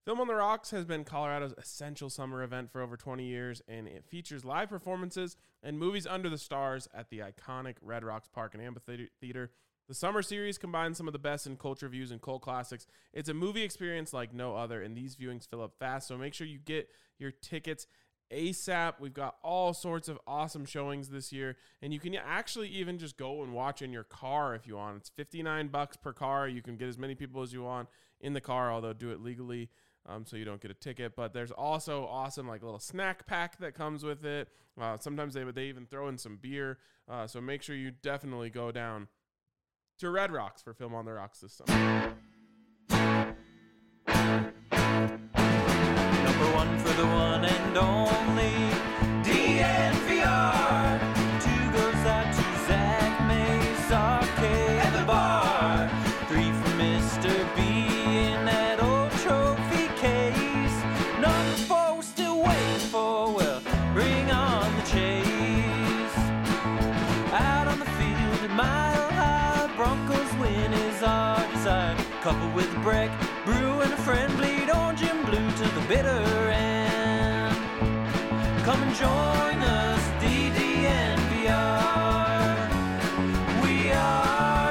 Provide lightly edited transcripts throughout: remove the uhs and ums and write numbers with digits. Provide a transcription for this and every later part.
Film on the Rocks has been Colorado's essential summer event for over 20 years, and it features live performances and movies under the stars at the iconic Red Rocks Park and Amphitheater. The summer series combines some of the best in culture views and cult classics. It's a movie experience like no other, and these viewings fill up fast, so make sure you get your tickets ASAP. We've got all sorts of awesome showings this year, and you can actually even just go and watch in your car if you want. It's $59 per car. You can get as many people as you want in the car, although do it legally. So you don't get a ticket, but there's also awesome like little snack pack that comes with it. Sometimes they even throw in some beer. So make sure you definitely go down to Red Rocks for Film on the Rocks this summer. Number one for the one and only DNVR. Two goes out to Zach Mace, Arcade at the bar. Three for Mr. B in that old trophy case. Number four we're still waiting for, well, bring on the chase. Out on the field at Mile High, Broncos win is our desire. Coupled with a break, brew and a friend, bleed orange and blue to the bitter end. Come and join us, DNVR. We are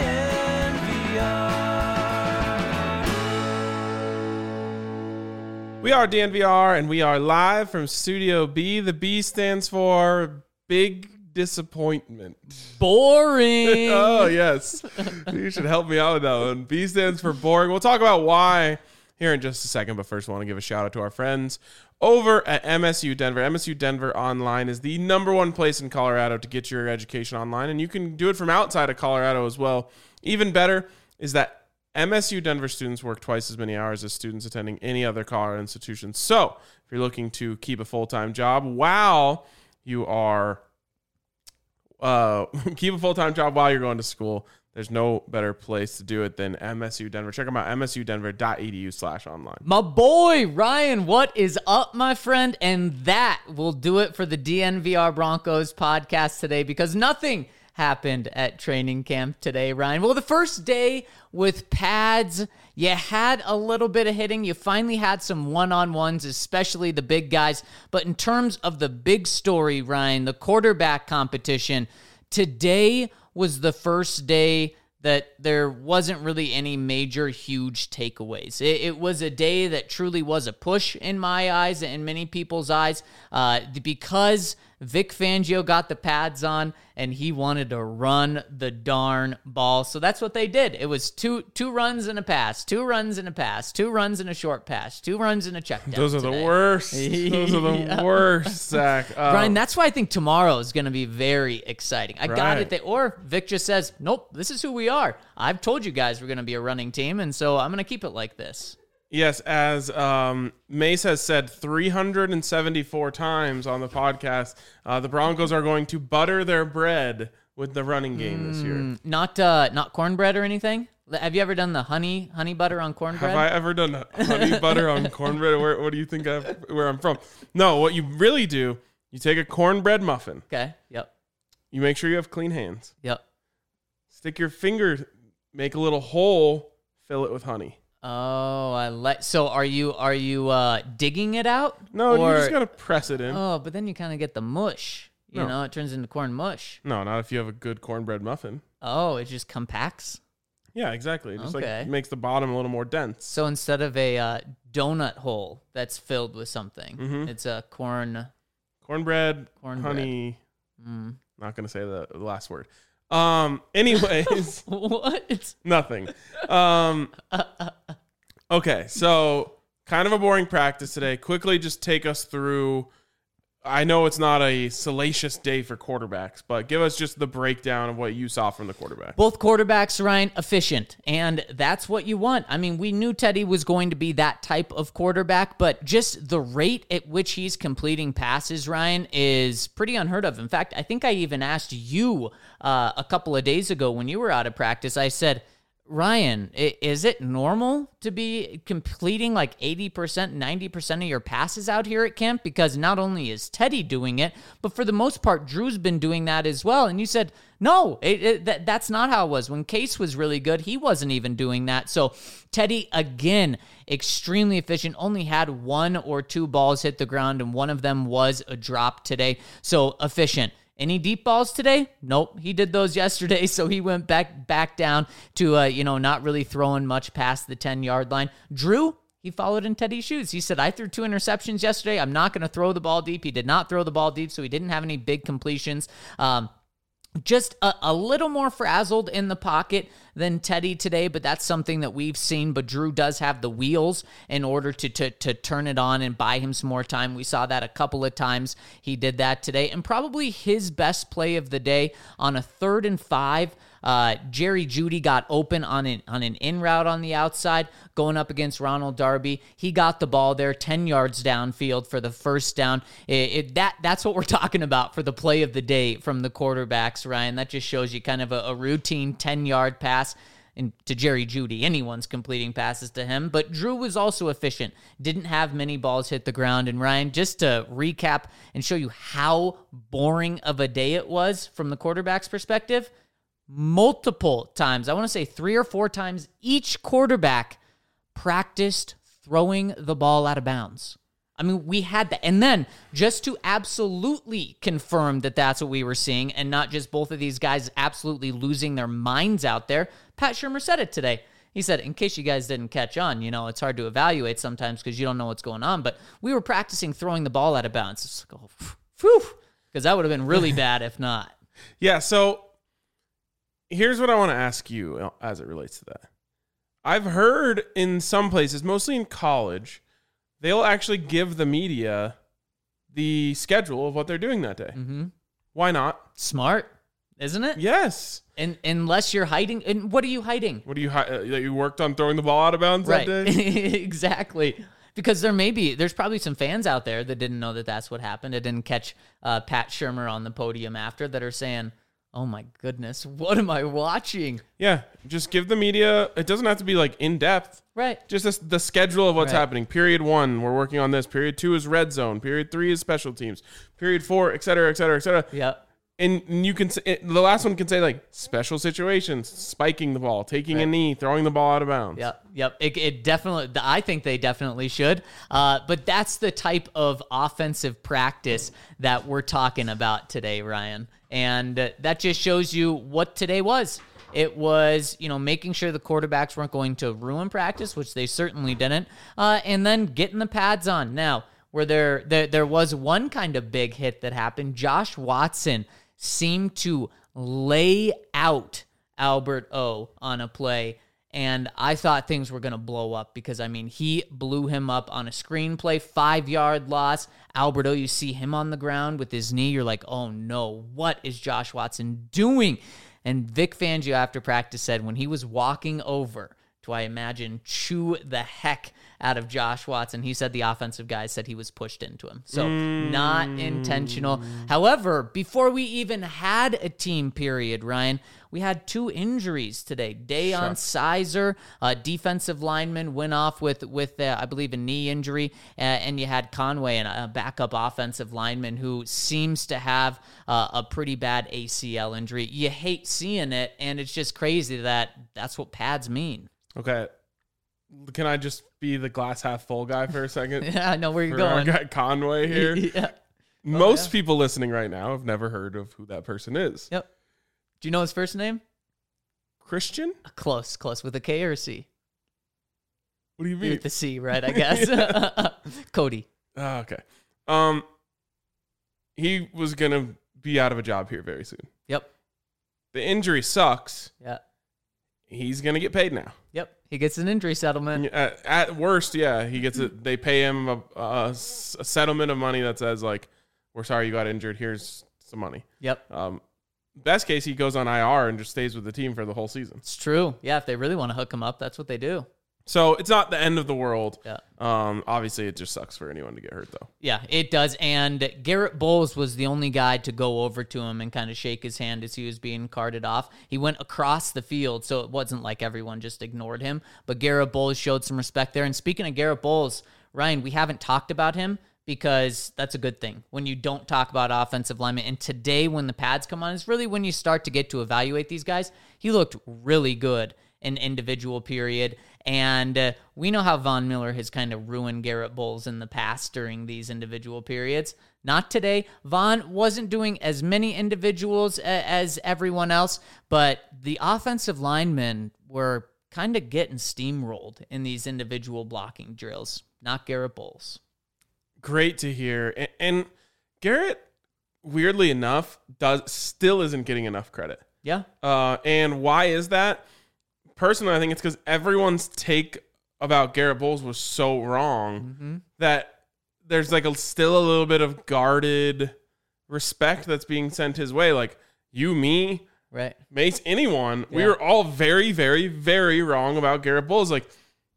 DNVR. We are DNVR, and we are live from Studio B. The B stands for Big Disappointment. Boring. Oh, yes. You should help me out with that one. B stands for boring. We'll talk about why here in just a second, but first I want to give a shout out to our friends over at MSU Denver. MSU Denver Online is the number one place in Colorado to get your education online, and you can do it from outside of Colorado as well. Even better is that MSU Denver students work twice as many hours as students attending any other Colorado institution. So if you're looking to keep a full-time job while you are keep a full-time job while you're going to school, there's no better place to do it than MSU Denver. Check them out, msudenver.edu/online. My boy, Ryan, what is up, my friend? And that will do it for the DNVR Broncos podcast today, because nothing happened at training camp today, Ryan. Well, the first day with pads, you had a little bit of hitting. You finally had some one-on-ones, especially the big guys. But in terms of the big story, Ryan, the quarterback competition, today was the first day that there wasn't really any major huge takeaways. It was a day that truly was a push in my eyes and many people's eyes, because Vic Fangio got the pads on and he wanted to run the darn ball. So that's what they did. It was two runs and a pass, 2 runs and a pass, 2 runs and a short pass, 2 runs and a check down. Those are the worst. Those are the worst, Zach. Brian, that's why I think tomorrow is going to be very exciting. I got it there. Or Vic just says, nope, this is who we are. I've told you guys we're going to be a running team, and so I'm going to keep it like this. Yes, as Mace has said 374 times on the podcast, the Broncos are going to butter their bread with the running game this year. Not cornbread or anything? Have you ever done the honey butter on cornbread? Have I ever done honey butter on cornbread? What do you think where I'm from? No, what you really do, you take a cornbread muffin. Okay, yep. You make sure you have clean hands. Yep. Stick your finger, make a little hole, fill it with honey. Oh, I like. So are you digging it out? No, you just gotta press it in. Oh, but then you kind of get the mush. You know, it turns into corn mush. No, not if you have a good cornbread muffin. Oh, it just compacts. Yeah, exactly. It just Okay. makes the bottom a little more dense. So instead of a donut hole that's filled with something, it's a cornbread, honey. Not gonna say the last word. Anyways, what? Nothing. Okay, so kind of a boring practice today. Quickly, just take us through. I know it's not a salacious day for quarterbacks, but give us just the breakdown of what you saw from the quarterback. Both quarterbacks, Ryan, efficient, and that's what you want. I mean, we knew Teddy was going to be that type of quarterback, but just the rate at which he's completing passes, Ryan, is pretty unheard of. In fact, I think I even asked you a couple of days ago when you were out of practice, I said, Ryan, is it normal to be completing like 80%, 90% of your passes out here at camp? Because not only is Teddy doing it, but for the most part, Drew's been doing that as well. And you said, no, that's not how it was. When Case was really good, he wasn't even doing that. So Teddy, again, extremely efficient, only had 1 or 2 balls hit the ground, and one of them was a drop today. So efficient. Any deep balls today? Nope. He did those yesterday, so he went back down to, not really throwing much past the 10-yard line. Drew, he followed in Teddy's shoes. He said, I threw 2 interceptions yesterday. I'm not going to throw the ball deep. He did not throw the ball deep, so he didn't have any big completions. Just a little more frazzled in the pocket than Teddy today, but that's something that we've seen. But Drew does have the wheels in order to turn it on and buy him some more time. We saw that a couple of times. He did that today. And probably his best play of the day on a 3rd and 5. Jerry Jeudy got open on an in route on the outside going up against Ronald Darby. He got the ball there 10 yards downfield for the first down. That's what we're talking about for the play of the day from the quarterbacks, Ryan. That just shows you kind of a routine 10-yard pass to Jerry Jeudy. Anyone's completing passes to him, but Drew was also efficient. Didn't have many balls hit the ground. And Ryan, just to recap and show you how boring of a day it was from the quarterback's perspective, multiple times, I want to say 3 or 4 times, each quarterback practiced throwing the ball out of bounds. I mean, we had that. And then just to absolutely confirm that that's what we were seeing and not just both of these guys absolutely losing their minds out there, Pat Shurmur said it today. He said, in case you guys didn't catch on, it's hard to evaluate sometimes because you don't know what's going on, but we were practicing throwing the ball out of bounds. It's like, oh, phew, because that would have been really bad if not. Yeah, so here's what I want to ask you as it relates to that. I've heard in some places, mostly in college, they'll actually give the media the schedule of what they're doing that day. Mm-hmm. Why not? Smart, isn't it? Yes. And unless you're hiding, and what are you hiding? What do you worked on throwing the ball out of bounds that day? Exactly. Because there's probably some fans out there that didn't know that that's what happened. It didn't catch Pat Shurmur on the podium after that are saying, oh my goodness, what am I watching? Yeah, just give the media, it doesn't have to be like in depth. Right. Just the schedule of what's happening. Period 1, we're working on this. Period 2 is red zone. Period 3 is special teams. Period 4, et cetera, et cetera, et cetera. Yeah. And you can the last one can say like special situations, spiking the ball, taking a knee, throwing the ball out of bounds. Yep. It definitely, I think they definitely should. But that's the type of offensive practice that we're talking about today, Ryan. And that just shows you what today was. It was, making sure the quarterbacks weren't going to ruin practice, which they certainly didn't, and then getting the pads on. Now, where there was one kind of big hit that happened, Josh Watson seemed to lay out Albert O on a play, and I thought things were going to blow up because, he blew him up on a screenplay, 5-yard loss. Albert O, you see him on the ground with his knee. You're like, oh no, what is Josh Watson doing? And Vic Fangio after practice said when he was walking over to, I imagine, chew the heck out of Josh Watson, he said the offensive guys said he was pushed into him. So not intentional. However, before we even had a team period, Ryan, we had 2 injuries today. Deion Sizer, defensive lineman, went off with I believe, a knee injury. And you had Conway, a backup offensive lineman who seems to have a pretty bad ACL injury. You hate seeing it, and it's just crazy that that's what pads mean. Okay. Can I just be the glass half full guy for a second? Yeah, I know where you're going. going. Our guy Conway here. Yeah. Most people listening right now have never heard of who that person is. Yep. Do you know his first name? Christian? Close. With a K or a C? What do you mean? With the C, right, I guess. Cody. Oh, okay. He was going to be out of a job here very soon. Yep. The injury sucks. Yeah. He's going to get paid now. Yep. He gets an injury settlement. At worst, yeah, he gets it. They pay him a settlement of money that says, like, we're sorry you got injured. Here's some money. Yep. Best case, he goes on IR and just stays with the team for the whole season. It's true. Yeah, if they really want to hook him up, that's what they do. So it's not the end of the world. Yeah. Obviously, it just sucks for anyone to get hurt, though. Yeah, it does. And Garrett Bowles was the only guy to go over to him and kind of shake his hand as he was being carted off. He went across the field, so it wasn't like everyone just ignored him. But Garrett Bowles showed some respect there. And speaking of Garrett Bowles, Ryan, we haven't talked about him because that's a good thing when you don't talk about offensive linemen. And today, when the pads come on, is really when you start to get to evaluate these guys. He looked really good in individual period. And we know how Von Miller has kind of ruined Garrett Bowles in the past during these individual periods. Not today. Von wasn't doing as many individuals as everyone else, but the offensive linemen were kind of getting steamrolled in these individual blocking drills. Not Garrett Bowles. Great to hear. And Garrett, weirdly enough, still isn't getting enough credit. Yeah. And why is that? Personally, I think it's because everyone's take about Garrett Bowles was so wrong that there's like still a little bit of guarded respect that's being sent his way. Like you, me, right, Mace, anyone. Yeah. We were all very, very, very wrong about Garrett Bowles. Like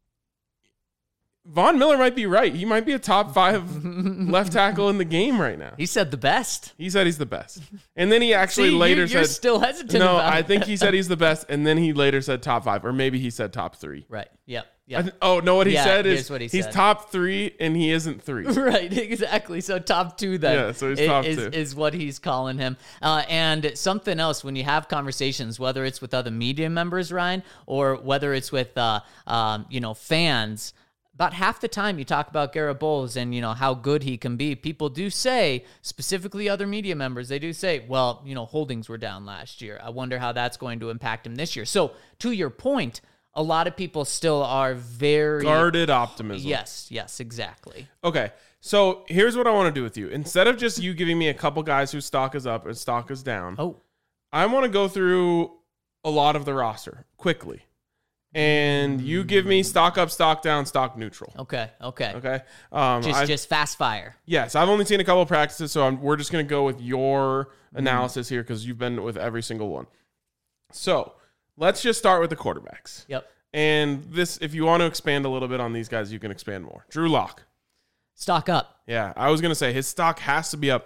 Von Miller might be right. He might be a top 5 left tackle in the game right now. He said the best. He said he's the best. And then he actually later you're said... still hesitant No, about I it. think he said he's the best, and then he later said top 5, or maybe he said top 3. Right. Yep. What he said here's is what he he's said. top 3, and he isn't 3. Right, exactly. So top 2 then. Yeah, so he's top 2. Is what he's calling him. And something else, when you have conversations, whether it's with other media members, Ryan, or whether it's with fans, about half the time you talk about Garrett Bowles and, how good he can be, people do say, specifically other media members, they do say, well, holdings were down last year. I wonder how that's going to impact him this year. So to your point, a lot of people still are very... Guarded optimism. Yes, exactly. Okay, so here's what I want to do with you. Instead of just you giving me a couple guys whose stock is up and stock is down, I want to go through a lot of the roster quickly. And you give me stock up, stock down, stock neutral. Okay. Just fast fire. Yes, I've only seen a couple of practices, so we're just going to go with your analysis here because you've been with every single one. So let's just start with the quarterbacks. Yep. And this, if you want to expand a little bit on these guys, you can expand more. Drew Lock. Stock up. Yeah, I was going to say his stock has to be up.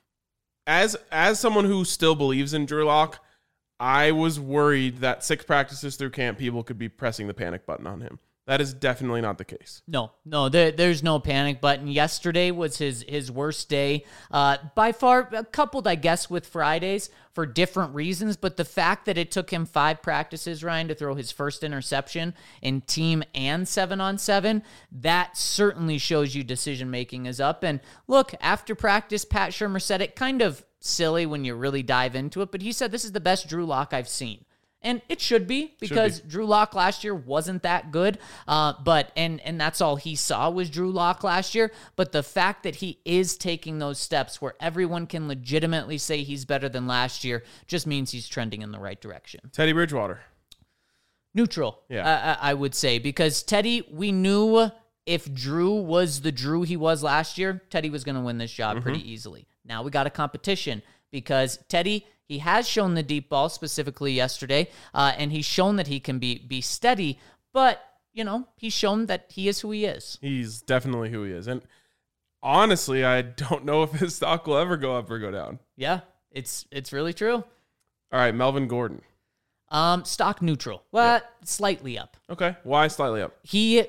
As someone who still believes in Drew Lock, I was worried that 6 practices through camp, people could be pressing the panic button on him. That is definitely not the case. No, there's no panic button. Yesterday was his worst day by far, coupled, I guess, with Fridays for different reasons. But the fact that it took him 5 practices, Ryan, to throw his first interception in team and 7-on-7, that certainly shows you decision-making is up. And look, after practice, Pat Shurmur said it kind of silly when you really dive into it, but he said this is the best Drew Lock I've seen. And it should be, because Drew Lock last year wasn't that good. But that's all he saw was Drew Lock last year. But the fact that he is taking those steps where everyone can legitimately say he's better than last year just means he's trending in the right direction. Teddy Bridgewater. Neutral, I would say, because Teddy, we knew if Drew was the Drew he was last year, Teddy was going to win this job pretty easily. Now we got a competition because Teddy, he has shown the deep ball specifically yesterday, and he's shown that he can be steady, but, he's shown that he is who he is. He's definitely who he is. And honestly, I don't know if his stock will ever go up or go down. Yeah, it's really true. All right, Melvin Gordon. Stock neutral. Well, slightly up. Okay, why slightly up? He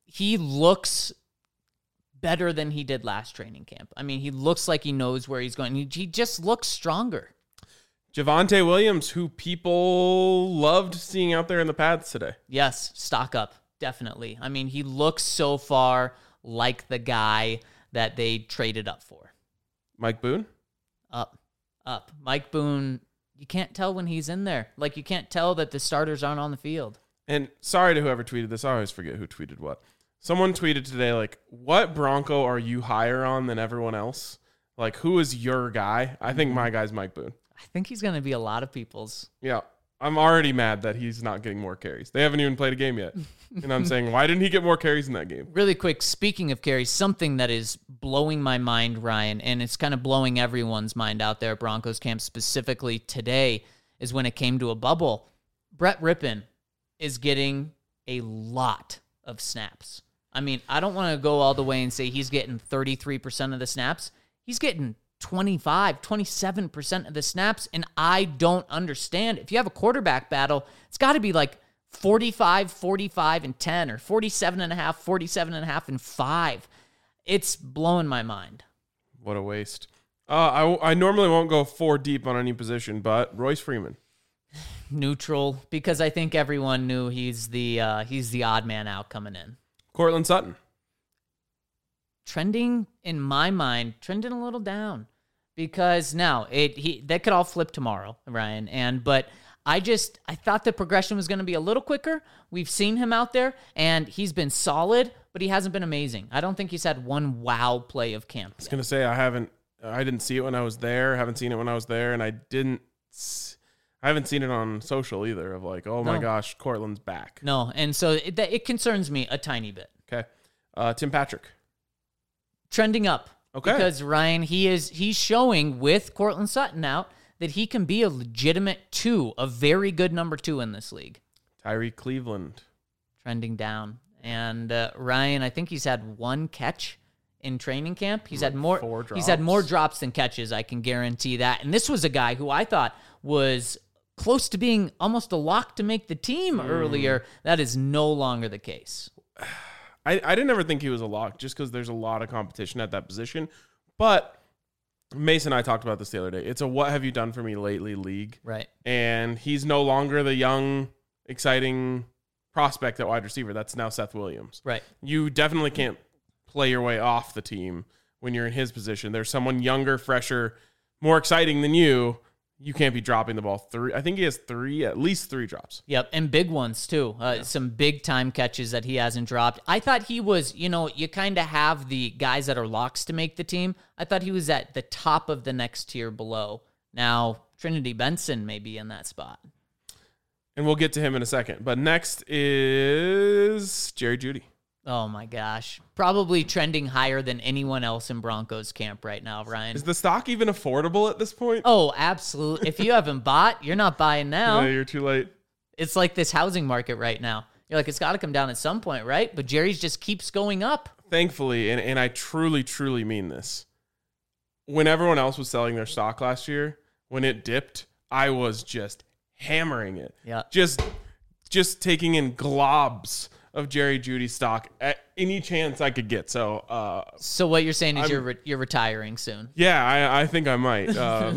looks better than he did last training camp. I mean, he looks like he knows where he's going. He just looks stronger. Javonte Williams, who people loved seeing out there in the pads today. Yes, stock up, definitely. I mean, he looks so far like the guy that they traded up for. Mike Boone? Up. Mike Boone, you can't tell when he's in there. Like, you can't tell that the starters aren't on the field. And sorry to whoever tweeted this. I always forget who tweeted what. Someone tweeted today, like, what Bronco are you higher on than everyone else? Like, who is your guy? I think my guy's Mike Boone. I think he's going to be a lot of people's. Yeah. I'm already mad that he's not getting more carries. They haven't even played a game yet. And I'm saying, why didn't he get more carries in that game? Really quick, speaking of carries, something that is blowing my mind, Ryan, and it's kind of blowing everyone's mind out there at Broncos camp specifically today, is when it came to a bubble. Brett Rippon is getting a lot of snaps. I mean, I don't want to go all the way and say he's getting 33% of the snaps. He's getting 25, 27% of the snaps, and I don't understand. If you have a quarterback battle, it's got to be like 45, 45, and 10, or 47.5, 47.5, and 5. It's blowing my mind. What a waste. I normally won't go 4 deep on any position, but Royce Freeman. Neutral, because I think everyone knew he's the odd man out coming in. Cortland Sutton. Trending, in my mind, trending a little down, because now that could all flip tomorrow, Ryan. But I thought the progression was going to be a little quicker. We've seen him out there, and he's been solid, but he hasn't been amazing. I don't think he's had one wow play of camp. I was going to say I didn't see it when I was there. Haven't seen it when I was there, and I haven't seen it on social either. Of like, oh my gosh, Cortland's back. No, and so it concerns me a tiny bit. Okay, Tim Patrick. Trending up. Okay. Because Ryan, he's showing with Cortland Sutton out that he can be a legitimate 2, a very good number 2 in this league. Tyree Cleveland. Trending down. And Ryan, I think he's had 1 catch in training camp. He's had more 4 drops. He's had more drops than catches, I can guarantee that. And this was a guy who I thought was close to being almost a lock to make the team earlier. That is no longer the case. I didn't ever think he was a lock just because there's a lot of competition at that position. But Mason and I talked about this the other day. It's a what have you done for me lately league. Right. And he's no longer the young, exciting prospect at wide receiver. That's now Seth Williams. Right. You definitely can't play your way off the team when you're in his position. There's someone younger, fresher, more exciting than you. You can't be dropping the ball 3. I think he has at least 3 drops. Yep, and big ones too. Some big time catches that he hasn't dropped. I thought he was, you kind of have the guys that are locks to make the team. I thought he was at the top of the next tier below. Now, Trinity Benson may be in that spot. And we'll get to him in a second. But next is Jerry Jeudy. Oh my gosh. Probably trending higher than anyone else in Broncos camp right now, Ryan. Is the stock even affordable at this point? Oh, absolutely. If you haven't bought, you're not buying now. Yeah, you're too late. It's like this housing market right now. You're like, it's got to come down at some point, right? But Jerry's just keeps going up. Thankfully, and I truly, truly mean this. When everyone else was selling their stock last year, when it dipped, I was just hammering it. Yeah. Just taking in globs of Jerry Jeudy stock at any chance I could get. So what you're saying is you're retiring soon. Yeah, I think I might.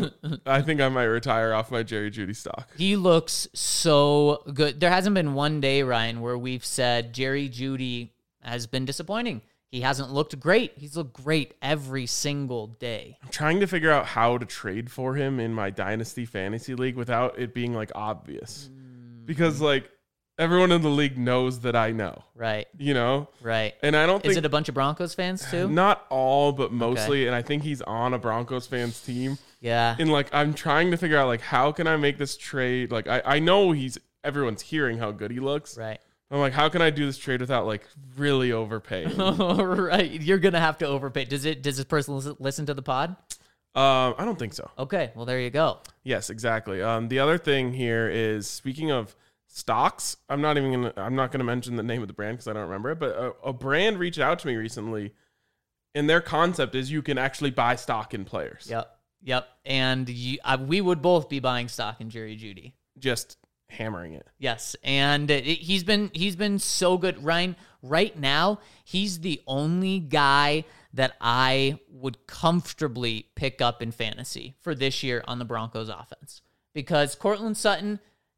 I think I might retire off my Jerry Jeudy stock. He looks so good. There hasn't been one day, Ryan, where we've said Jerry Jeudy has been disappointing. He hasn't looked great. He's looked great every single day. I'm trying to figure out how to trade for him in my Dynasty Fantasy League without it being like obvious. Because like everyone in the league knows that I know. Right. Right. And I don't think... Is it a bunch of Broncos fans too? Not all, but mostly. Okay. And I think he's on a Broncos fans team. Yeah. And like, I'm trying to figure out like, how can I make this trade? Like, I know everyone's hearing how good he looks. Right. I'm like, how can I do this trade without like really overpaying? Right. You're going to have to overpay. Does this person listen to the pod? I don't think so. Okay. Well, there you go. Yes, exactly. The other thing here is, speaking of stocks, I'm not going to mention the name of the brand because I don't remember it, but a brand reached out to me recently, and their concept is you can actually buy stock in players. Yep. And we would both be buying stock in Jerry Jeudy. Just hammering it. Yes, and he's been so good, Ryan. Right now, he's the only guy that I would comfortably pick up in fantasy for this year on the Broncos offense, because Cortland Sutton,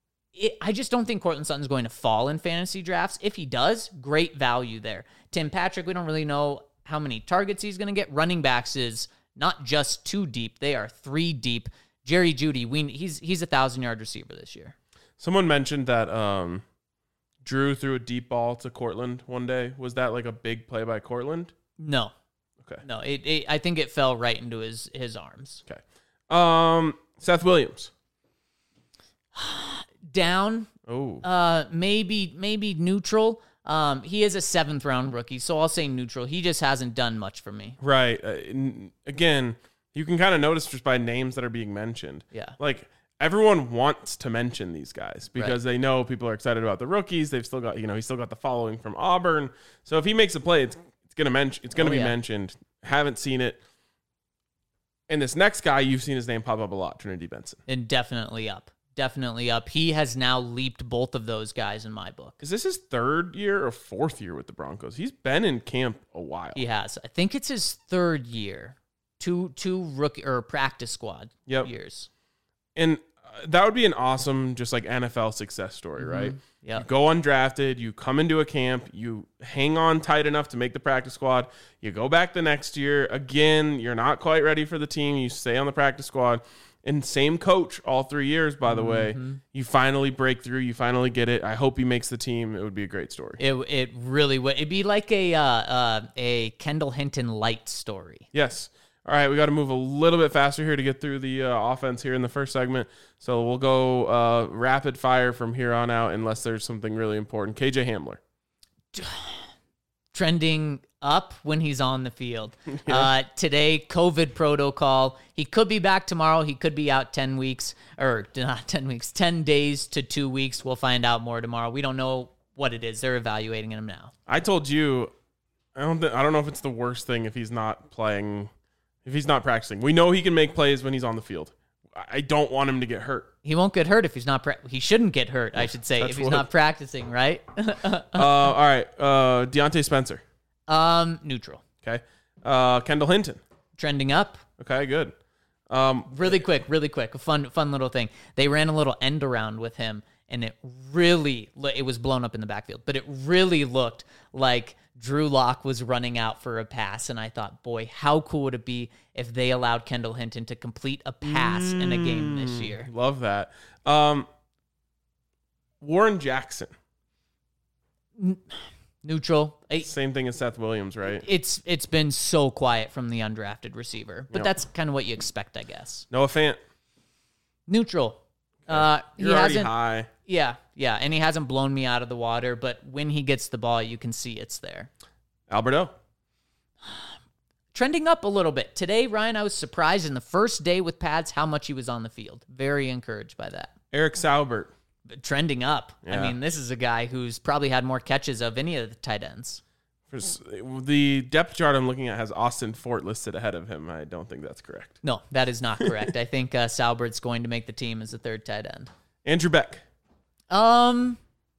I just don't think Cortland Sutton's going to fall in fantasy drafts. If he does, great value there. Tim Patrick, we don't really know how many targets he's going to get. Running backs is not just 2 deep, they are 3 deep. Jerry Jeudy, he's a 1,000-yard receiver this year. Someone mentioned that Drew threw a deep ball to Cortland one day. Was that like a big play by Cortland? No. Okay. No, I think it fell right into his arms. Okay. Seth Williams. Down. Oh. Maybe neutral. He is a 7th round rookie, so I'll say neutral. He just hasn't done much for me. Right. Again, you can kind of notice just by names that are being mentioned. Yeah. Like, everyone wants to mention these guys because they know people are excited about the rookies. They've still got, he's still got the following from Auburn. So if he makes a play, it's going to be mentioned. Haven't seen it. And this next guy, you've seen his name pop up a lot, Trinity Benson. And definitely up. Definitely up. He has now leaped both of those guys in my book. Is this his third year or fourth year with the Broncos? He's been in camp a while. He has. I think it's his third year. Two rookie or practice squad years. And that would be an awesome, just like NFL success story, right? Yeah. You go undrafted, you come into a camp, you hang on tight enough to make the practice squad. You go back the next year. Again, you're not quite ready for the team. You stay on the practice squad. And same coach all 3 years, by the way. You finally break through. You finally get it. I hope he makes the team. It would be a great story. It really would. It'd be like a Kendall Hinton light story. Yes. All right, we got to move a little bit faster here to get through the offense here in the first segment. So we'll go rapid fire from here on out unless there's something really important. KJ Hamler. Trending up when he's on the field. Today, COVID protocol. He could be back tomorrow. He could be out 10 weeks, or not 10 weeks, 10 days to 2 weeks. We'll find out more tomorrow. We don't know what it is. They're evaluating him now. I told you, I don't know if it's the worst thing if he's not playing. If he's not practicing. We know he can make plays when he's on the field. I don't want him to get hurt. He won't get hurt if he's not he shouldn't get hurt, I should say, if he's not practicing, right? All right. Deontay Spencer. Neutral. Okay. Kendall Hinton. Trending up. Okay, good. Really quick. A fun little thing. They ran a little end around with him, and it was blown up in the backfield, but it really looked like Drew Lock was running out for a pass, and I thought, boy, how cool would it be if they allowed Kendall Hinton to complete a pass in a game this year? Love that. Warren Jackson. Neutral. Same thing as Seth Williams, right? It's been so quiet from the undrafted receiver, but that's kind of what you expect, I guess. Noah Fant. Neutral. You're already high. Yeah, and he hasn't blown me out of the water, but when he gets the ball, you can see it's there. Alberto. Trending up a little bit. Today, Ryan, I was surprised in the first day with pads how much he was on the field. Very encouraged by that. Eric Saubert. Trending up. Yeah. I mean, this is a guy who's probably had more catches of any of the tight ends. The depth chart I'm looking at has Austin Fort listed ahead of him. I don't think that's correct. No, that is not correct. I think Saubert's going to make the team as the third tight end. Andrew Beck. They're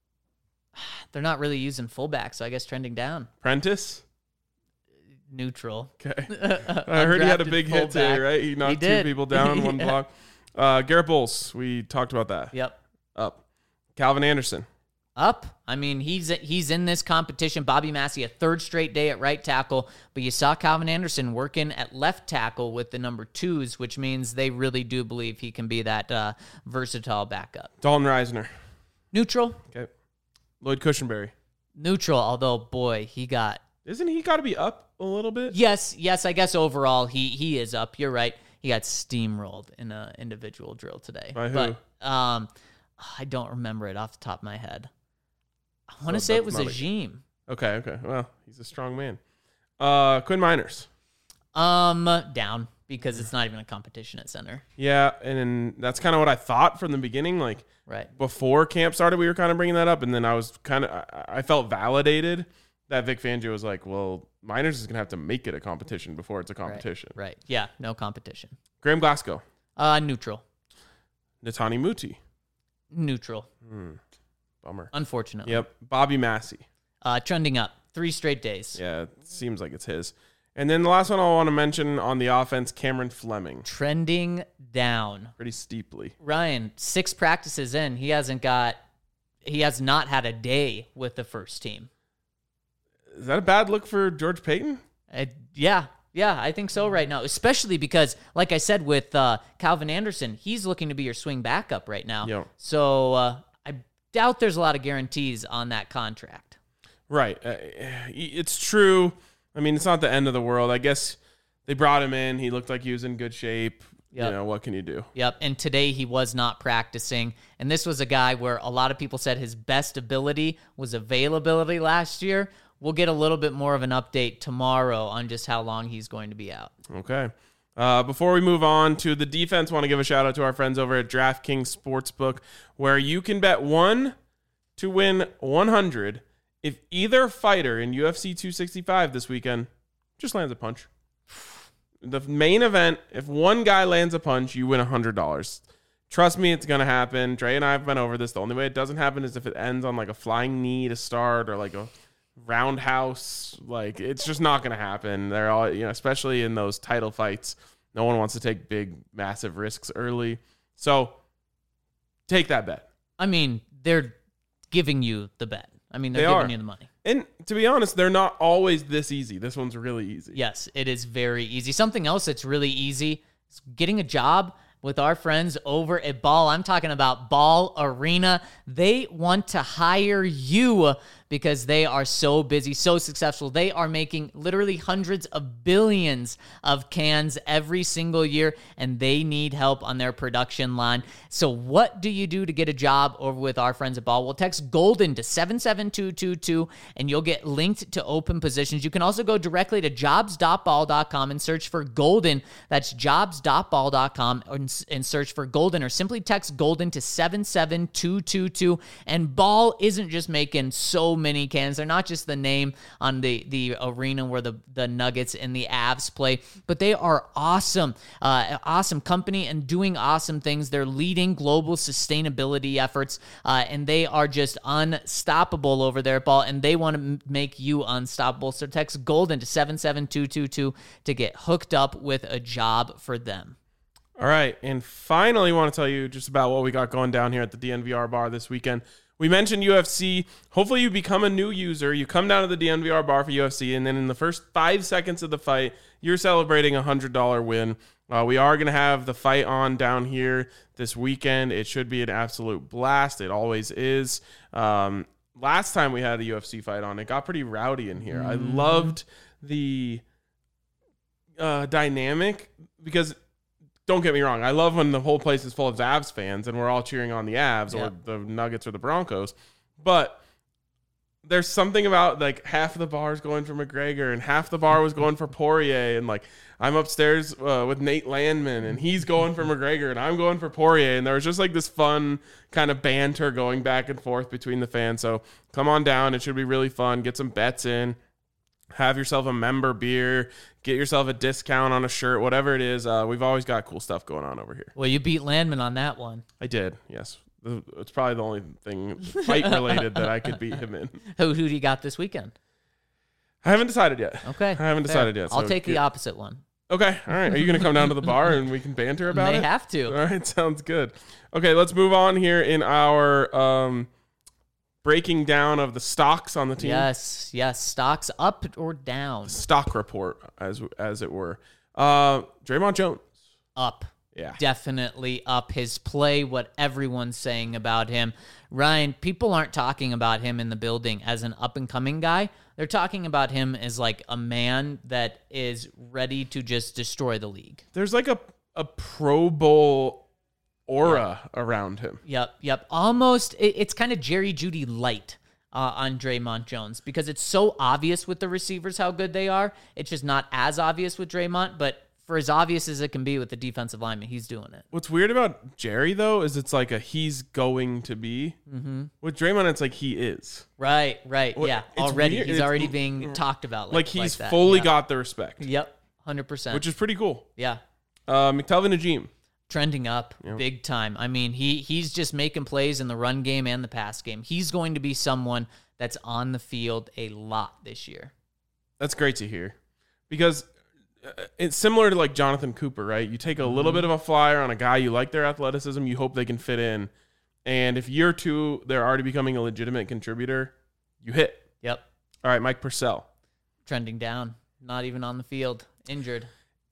not really using fullback, so I guess trending down. Prentice. Neutral. Okay. I heard he had a big hit today, right? He knocked two people down on one block. Garrett Bowles. We talked about that. Yep. Up. Calvin Anderson. Up. I mean, he's in this competition. Bobby Massey, a third straight day at right tackle, but you saw Calvin Anderson working at left tackle with the number 2s, which means they really do believe he can be that versatile backup. Dalton Reisner. Neutral. Okay. Lloyd Cushenberry. Neutral, although, boy, Isn't he got to be up a little bit? Yes, I guess overall he is up. You're right. He got steamrolled in an individual drill today. By who? But, I don't remember it off the top of my head. I want to say it was Ajim. Okay. Well, he's a strong man. Quinn Miners. Down because it's not even a competition at center. Yeah, and that's kind of what I thought from the beginning. Like, right before camp started, we were kind of bringing that up, and then I felt validated that Vic Fangio was like, well, Miners is going to have to make it a competition before it's a competition. Right. Yeah, no competition. Graham Glasgow. Neutral. Natani Muti. Neutral. Bummer. Unfortunately. Yep. Bobby Massey. Trending up. 3 straight days. Yeah, it seems like it's his. And then the last one I want to mention on the offense, Cameron Fleming. Trending down. Pretty steeply. Ryan, 6 practices in, he has not had a day with the first team. Is that a bad look for George Payton? Yeah, I think so right now, especially because, like I said, with Calvin Anderson, he's looking to be your swing backup right now. Yep. So I doubt there's a lot of guarantees on that contract. Right. It's true. I mean, it's not the end of the world. I guess they brought him in. He looked like he was in good shape. Yep. You know, what can you do? Yep. And today he was not practicing. And this was a guy where a lot of people said his best ability was availability last year. We'll get a little bit more of an update tomorrow on just how long he's going to be out. Okay. Before we move on to the defense, want to give a shout out to our friends over at DraftKings Sportsbook, where you can bet 1 to win 100 if either fighter in UFC 265 this weekend just lands a punch. The main event, if one guy lands a punch, you win $100. Trust me, it's going to happen. Dre and I have been over this. The only way it doesn't happen is if it ends on like a flying knee to start or like a roundhouse. Like, it's just not going to happen. They're all, especially in those title fights, no one wants to take big, massive risks early. So take that bet. I mean, they're giving you the bet. I mean, they're giving you the money. And to be honest, they're not always this easy. This one's really easy. Yes, it is very easy. Something else that's really easy is getting a job with our friends over at Ball. I'm talking about Ball Arena. They want to hire you because they are so busy, so successful. They are making literally hundreds of billions of cans every single year, and they need help on their production line. So what do you do to get a job over with our friends at Ball? Well, text GOLDEN to 77222, and you'll get linked to open positions. You can also go directly to jobs.ball.com and search for Golden. That's jobs.ball.com and search for Golden, or simply text GOLDEN to 77222. And Ball isn't just making so many cans. They're not just the name on the arena where the Nuggets and the Avs play, but they are awesome, awesome company and doing awesome things. They're leading global sustainability efforts, and they are just unstoppable over there at Ball, and they want to make you unstoppable. So text GOLDEN to 77222 to get hooked up with a job for them. All right, and finally, want to tell you just about what we got going down here at the DNVR bar this weekend. We mentioned UFC. Hopefully you become a new user. You come down to the DNVR bar for UFC, and then in the first 5 seconds of the fight, you're celebrating a $100 win. We are going to have the fight on down here this weekend. It should be an absolute blast. It always is. Last time we had a UFC fight on, it got pretty rowdy in here. I loved the dynamic because... Don't get me wrong. I love when the whole place is full of Avs fans and we're all cheering on the Avs or the Nuggets or the Broncos. But there's something about like half of the bar is going for McGregor and half the bar was going for Poirier. And like I'm upstairs with Nate Landman and he's going for McGregor and I'm going for Poirier. And there was just like this fun kind of banter going back and forth between the fans. So come on down. It should be really fun. Get some bets in. Have yourself a member beer, get yourself a discount on a shirt, whatever it is. We've always got cool stuff going on over here. Well, you beat Landman on that one. I did, yes. It's probably the only thing fight-related that I could beat him in. Who do you got this weekend? I haven't decided yet. Okay. I haven't decided yet. I'll take the opposite one. Okay, all right. Are you going to come down to the bar and we can banter about it? May have to. All right, sounds good. Okay, let's move on here in our... breaking down of the stocks on the team. Yes. Stocks up or down? Stock report, as it were. Draymond Jones. Up. Yeah. Definitely up. His play, what everyone's saying about him. Ryan, people aren't talking about him in the building as an up-and-coming guy. They're talking about him as like a man that is ready to just destroy the league. There's like a Pro Bowl aura around him. Yep. Almost, it's kind of Jerry Jeudy light on Draymond Jones because it's so obvious with the receivers how good they are. It's just not as obvious with Draymond, but for as obvious as it can be with the defensive lineman, he's doing it. What's weird about Jerry, though, is it's like he's going to be. Mm-hmm. With Draymond, it's like he is. Right. Yeah, already. Weird. He's already being talked about like he's fully got the respect. Yep, 100%. Which is pretty cool. Yeah. McTelvin Najim. Trending up big time. I mean, he's just making plays in the run game and the pass game. He's going to be someone that's on the field a lot this year. That's great to hear because it's similar to like Jonathan Cooper, right? You take a little bit of a flyer on a guy, you like their athleticism, you hope they can fit in. And if year two, they're already becoming a legitimate contributor, you hit. Yep. All right, Mike Purcell. Trending down. Not even on the field. Injured.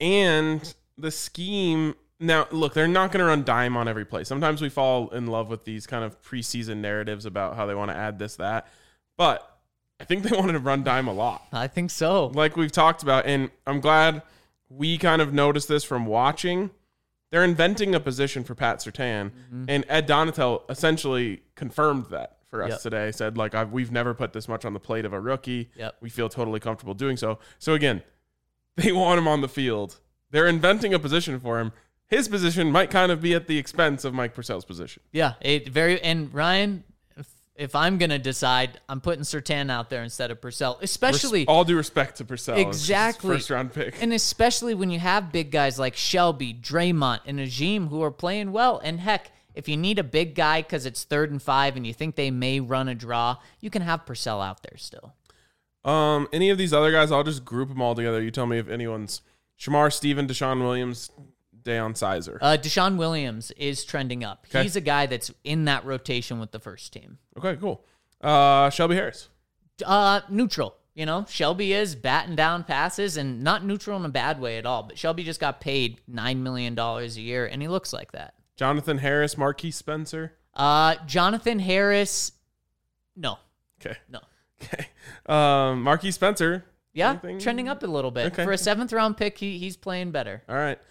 And the scheme... Now, look, they're not going to run dime on every play. Sometimes we fall in love with these kind of preseason narratives about how they want to add this, that. But I think they wanted to run dime a lot. I think so. Like we've talked about, and I'm glad we kind of noticed this from watching. They're inventing a position for Pat Surtain, and Ed Donatel essentially confirmed that for us today. Said, like, we've never put this much on the plate of a rookie. Yep. We feel totally comfortable doing so. So, again, they want him on the field. They're inventing a position for him. His position might kind of be at the expense of Mike Purcell's position. Yeah, and Ryan, if I'm going to decide, I'm putting Surtain out there instead of Purcell, especially... All due respect to Purcell. Exactly. First-round pick. And especially when you have big guys like Shelby, Draymond, and Najim who are playing well. And heck, if you need a big guy because it's 3rd and 5 and you think they may run a draw, you can have Purcell out there still. Any of these other guys, I'll just group them all together. You tell me if anyone's... Shamar Stephen, Deshaun Williams, Deion Sizer. Deshaun Williams is trending up. Okay. He's a guy that's in that rotation with the first team. Okay, cool. Shelby Harris. Neutral. You know, Shelby is batting down passes and not neutral in a bad way at all. But Shelby just got paid $9 million a year, and he looks like that. Jonathan Harris, Marquise Spencer. Jonathan Harris, no. Okay. No. Okay. Marquise Spencer. Yeah, Anything? trending up a little bit. Okay. For a 7th-round pick, he's playing better. All right.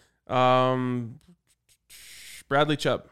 Bradley Chubb.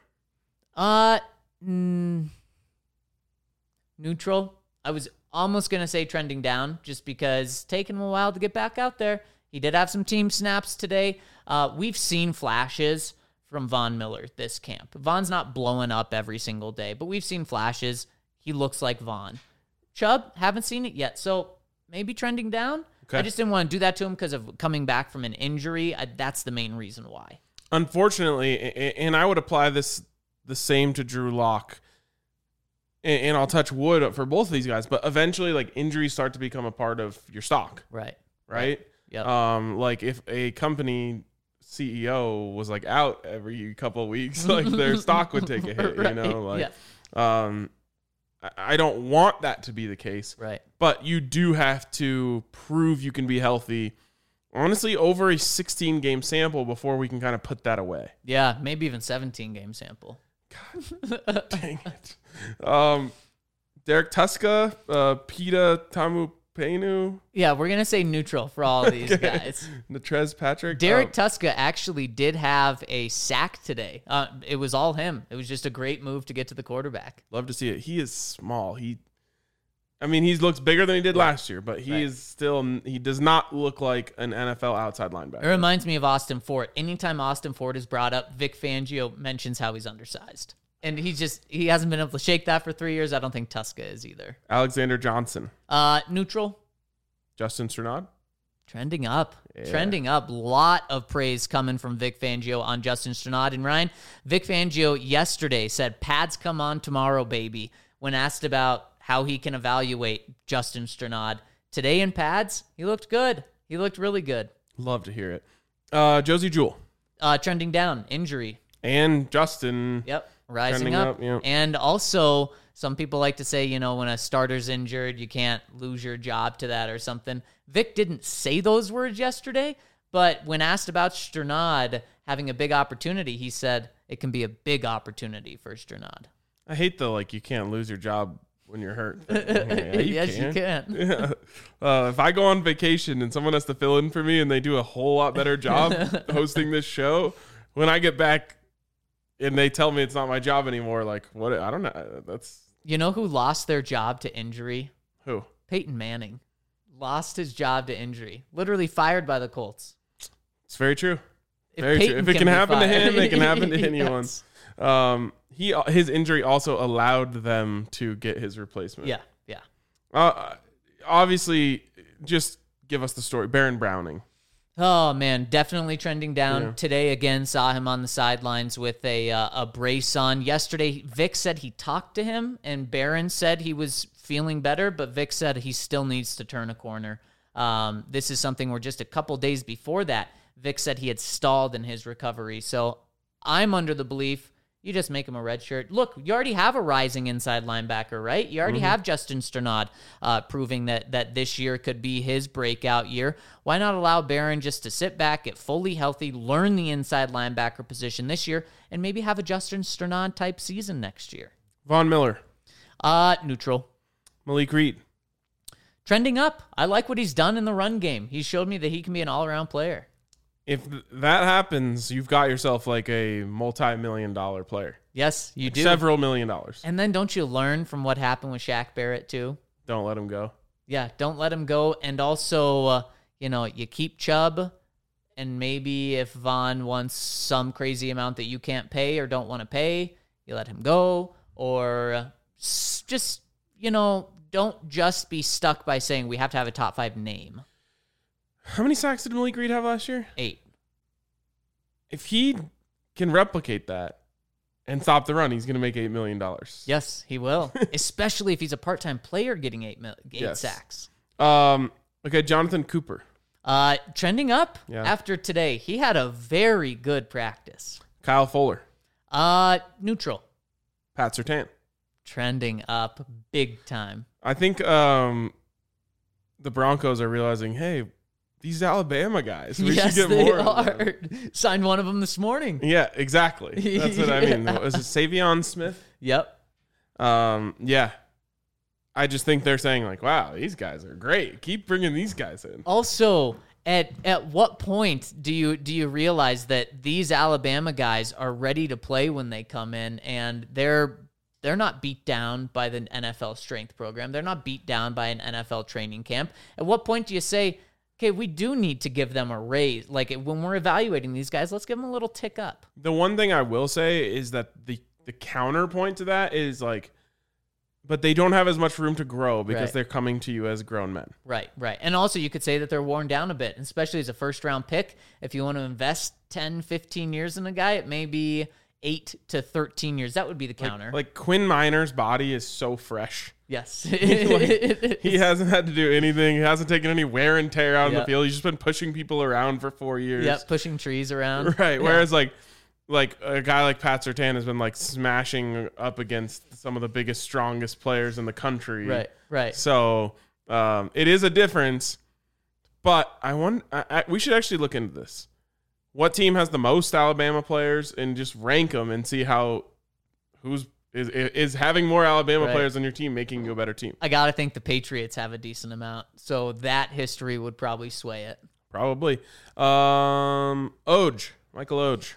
Neutral. I was almost going to say trending down just because it's taken him a while to get back out there. He did have some team snaps today. We've seen flashes from Von Miller this camp. Von's not blowing up every single day, but we've seen flashes. He looks like Von. Chubb, haven't seen it yet, so maybe trending down. Okay. I just didn't want to do that to him because of coming back from an injury. That's the main reason why. Unfortunately, and I would apply the same to Drew Lock, and I'll touch wood for both of these guys, but eventually, like, injuries start to become a part of your stock. Right. Yep. Yep. Like if a company CEO was like out every couple of weeks, like their stock would take a hit, Right. you know, like, Yeah. I don't want that to be the case, Right. but you do have to prove you can be healthy, honestly, over a 16-game sample before we can kind of put that away. Yeah, maybe even 17-game sample. Dang it. Derek Tuska, Peta Tamupenu, Yeah, we're going to say neutral for all of these Okay. guys. Natrez Patrick. Derek Tuska actually did have a sack today. It was all him. It was just a great move to get to the quarterback. Love to see it. He is small. He looks bigger than he did last year, but he is still, he does not look like an NFL outside It linebacker. reminds me of Austin Fort. Anytime Austin Fort is brought up, Vic Fangio mentions how he's undersized. And he hasn't been able to shake that for 3 years. I don't think Tuska is either. Alexander Johnson. Neutral. Justin Strnad. Trending up. Yeah. Trending up. Lot of praise coming from Vic Fangio on Justin Strnad. And Ryan, Vic Fangio yesterday said, pads come on tomorrow, baby, when asked about how he can evaluate Justin Strnad. Today in pads, he looked good. He looked really good. Love to hear it. Josie Jewell. Trending down. Injury. And Justin. Yep. Rising Trending up. up, yep. And also, some people like to say, you know, when a starter's injured, you can't lose your job to that or something. Vic didn't say those words yesterday, but when asked about Strnad having a big opportunity, he said it can be a big opportunity for Strnad. I hate the, like, you can't lose your job when you're hurt. Yeah, Yes, you can. Yeah. If I go on vacation and someone has to fill in for me and they do a whole lot better job hosting this show, when I get back and they tell me it's not my job anymore, like, what? I don't know. That's You know who lost their job to injury? who? Peyton Manning. Lost his job to injury. Literally fired by the Colts. It's very true. If Very true. Peyton If it can be happen to fired- him, it can happen to anyone. Yes. His injury also allowed them to get his replacement. Yeah. Obviously, just give us the story. Baron Browning. Oh man, definitely trending down. Yeah. Today again, saw him on the sidelines with a brace on. Yesterday, Vic said he talked to him, and Barron said he was feeling better, but Vic said he still needs to turn a corner. This is something where just a couple days before that, Vic said he had stalled in his recovery. So I'm under the belief you just make him a red shirt. Look, you already have a rising inside linebacker, right? You already have Justin Strnad proving that this year could be his breakout year. Why not allow Barron just to sit back, get fully healthy, learn the inside linebacker position this year, and maybe have a Justin Strnad type season next year? Von Miller. Neutral. Malik Reed. Trending up. I like what he's done in the run game. He showed me that he can be an all-around player. If that happens, you've got yourself like a multi-million-dollar player. Yes, you do. Several $1 million. And then don't you learn from what happened with Shaq Barrett too? Don't let him go. Yeah, don't let him go. And also, you keep Chubb And maybe if Vaughn wants some crazy amount that you can't pay or don't want to pay, you let him go. Or just, don't just be stuck by saying we have to have a top 5 name. How many sacks did Malik Reed have last year? 8. If he can replicate that and stop the run, he's going to make $8 million. Yes, he will. Especially if he's a part-time player getting 8 Yes. sacks. Okay, Jonathan Cooper. Trending up Yeah. after today. He had a very good practice. Kyle Fuller. Neutral. Pat Surtain. Trending up big time. I think the Broncos are realizing, hey, these Alabama guys, we yes, should get they more of them. are. Signed one of them this morning. Yeah, exactly. That's what I mean. Was it Savion Smith? Yep. Yeah. I just think they're saying like, wow, these guys are great. Keep bringing these guys in. Also, at what point do you realize that these Alabama guys are ready to play when they come in, and they're not beat down by the NFL strength program. They're not beat down by an NFL training camp. At what point do you say, okay, we do need to give them a raise? Like when we're evaluating these guys, let's give them a little tick up. The one thing I will say is that the counterpoint to that is like, but they don't have as much room to grow because Right. they're coming to you as grown men. Right. And also you could say that they're worn down a bit, especially as a first-round pick. If you want to invest 10, 15 years in a guy, it may be 8 to 13 years. That would be the counter. Like Quinn Miner's body is so fresh. Yes. He hasn't had to do anything. He hasn't taken any wear and tear out in the Yep. field. He's just been pushing people around for 4 years. Yep, pushing trees around. Right. Yeah. Whereas like a guy like Pat Surtain has been like smashing up against some of the biggest, strongest players in the country. Right. So it is a difference, but we should actually look into this. What team has the most Alabama players and just rank them and see how is having more Alabama Right. players on your team making you a better team? I got to think the Patriots have a decent amount. So that history would probably sway it. Probably. Michael Oj.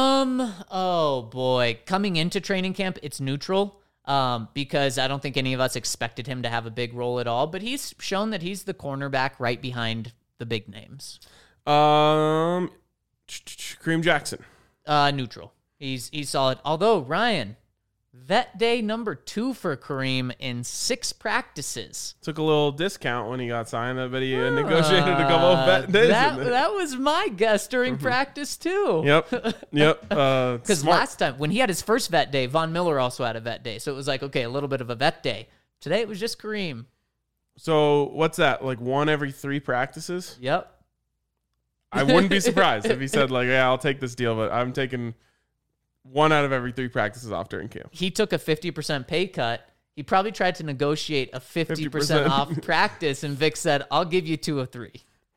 Oh boy. Coming into training camp, it's neutral. Because I don't think any of us expected him to have a big role at all, but he's shown that he's the cornerback right behind the big names. Kareem Jackson. Neutral. He's solid. Although, Ryan, vet day number 2 for Kareem in 6 practices. Took a little discount when he got signed. I bet he negotiated a couple of vet days. That was my guess during practice too. Yep. Because last time, when he had his first vet day, Von Miller also had a vet day. So it was like, okay, a little bit of a vet day. Today it was just Kareem. So what's that? Like 1 every 3 practices? Yep. I wouldn't be surprised if he said like, yeah, I'll take this deal, but I'm taking 1 out of every 3 practices off during camp. He took a 50% pay cut. He probably tried to negotiate a 50% 50%. off practice, and Vic said, I'll give you 2 of 3.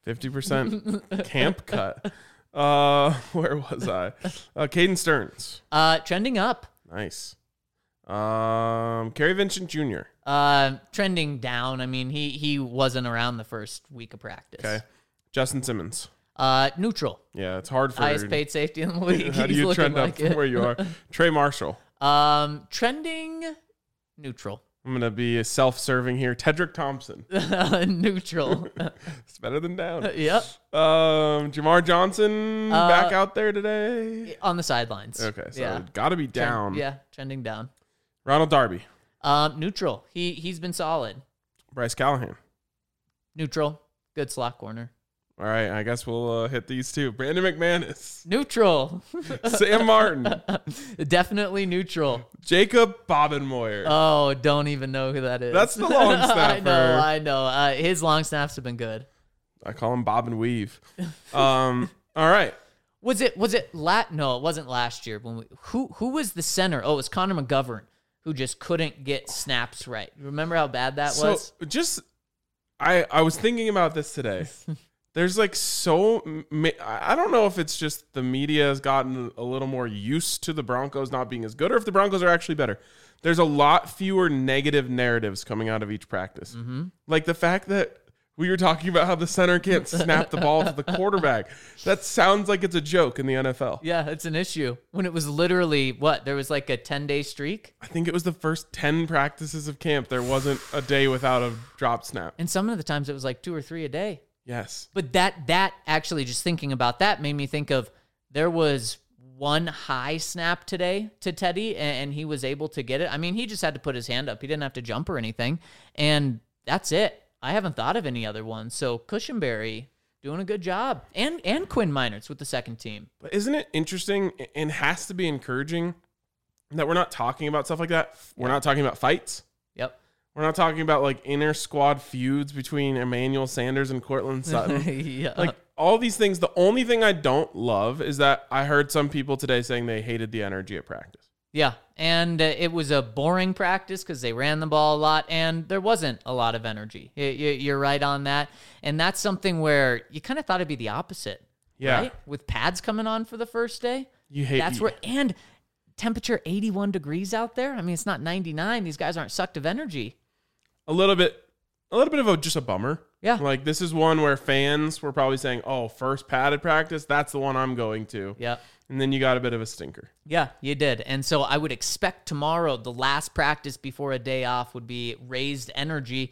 50% camp cut. Where was I? Caden Stearns. Trending up. Nice. Kerry Vincent Jr. Trending down. I mean, he wasn't around the first week of practice. Okay. Justin Simmons. Neutral. Yeah, it's hard for Highest paid safety in the league. How do He's you looking trend up like from it. where you are? Trey Marshall. Trending neutral. I'm going to be self-serving here. Tedrick Thompson. Neutral. It's better than down. Yep. Jamar Johnson back out there today. On the sidelines. Okay, so yeah. got to be down. Trending down. Ronald Darby. Neutral. He's been solid. Bryce Callahan. Neutral. Good slot corner. All right, I guess we'll hit these two. Brandon McManus. Neutral. Sam Martin. Definitely neutral. Jacob Bobenmoyer. Oh, don't even know who that is. That's the long snapper. I know. His long snaps have been good. I call him Bob and Weave. All right. Was it no, it wasn't last year when who was the center? Oh, it was Connor McGovern who just couldn't get snaps right. Remember how bad that was? So I was thinking about this today. There's like I don't know if it's just the media has gotten a little more used to the Broncos not being as good or if the Broncos are actually better. There's a lot fewer negative narratives coming out of each practice. Mm-hmm. Like the fact that we were talking about how the center can't snap the ball to the quarterback. That sounds like it's a joke in the NFL. Yeah, it's an issue. When it was literally, there was like a 10-day streak? I think it was the first 10 practices of camp. There wasn't a day without a drop snap. And some of the times it was like 2 or 3 a day. Yes. But that actually, just thinking about that, made me think of, there was one high snap today to Teddy, and he was able to get it. I mean, he just had to put his hand up. He didn't have to jump or anything. And that's it. I haven't thought of any other ones. So Cushenberry doing a good job. And Quinn Meinerz with the second team. But isn't it interesting and has to be encouraging that we're not talking about stuff like that? We're not talking about fights. Yep. We're not talking about like inter squad feuds between Emmanuel Sanders and Cortland Sutton. Yeah. Like all these things. The only thing I don't love is that I heard some people today saying they hated the energy at practice. Yeah, and it was a boring practice because they ran the ball a lot, and there wasn't a lot of energy. You're right on that. And that's something where you kind of thought it'd be the opposite. Yeah. Right? With pads coming on for the first day. You hate That's where, and temperature 81 degrees out there. I mean, it's not 99. These guys aren't sucked of energy. a little bit of just a bummer. Yeah. Like this is one where fans were probably saying, "Oh, first padded practice, that's the one I'm going to." Yeah. And then you got a bit of a stinker. Yeah, you did. And so I would expect tomorrow, the last practice before a day off, would be raised energy.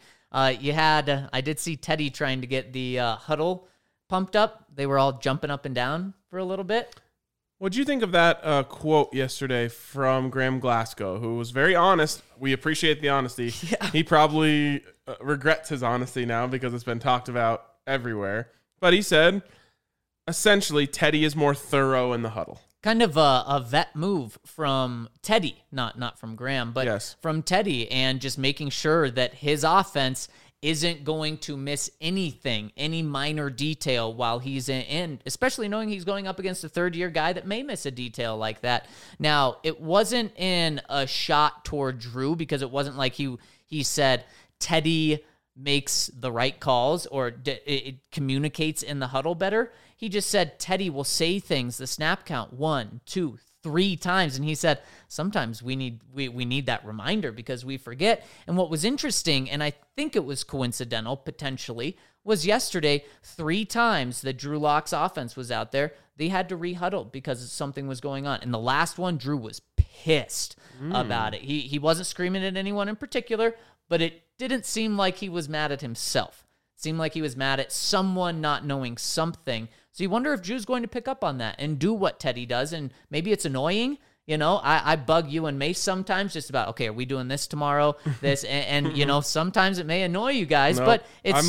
I did see Teddy trying to get the huddle pumped up. They were all jumping up and down for a little bit. What'd you think of that quote yesterday from Graham Glasgow, who was very honest? We appreciate the honesty. Yeah. He probably regrets his honesty now because it's been talked about everywhere. But he said, essentially, Teddy is more thorough in the huddle. Kind of a vet move from Teddy, not from Graham, but Yes. from Teddy, and just making sure that his offense isn't going to miss anything, any minor detail while he's in, especially knowing he's going up against a third-year guy that may miss a detail like that. Now, it wasn't in a shot toward Drew, because it wasn't like he said Teddy makes the right calls or it communicates in the huddle better. He just said Teddy will say things, the snap count 1, 2, 3 times. And he said, sometimes we need that reminder because we forget. And what was interesting, and I think it was coincidental potentially, was yesterday 3 times that Drew Lock's offense was out there, they had to re-huddle because something was going on. And the last one, Drew was pissed about it. He wasn't screaming at anyone in particular, but it didn't seem like he was mad at himself. It seemed like he was mad at someone not knowing something. So you wonder if Drew's going to pick up on that and do what Teddy does. And maybe it's annoying. You know, I bug you and Mace sometimes just about, okay, are we doing this tomorrow? This, and you know, sometimes it may annoy you guys, No, but it's...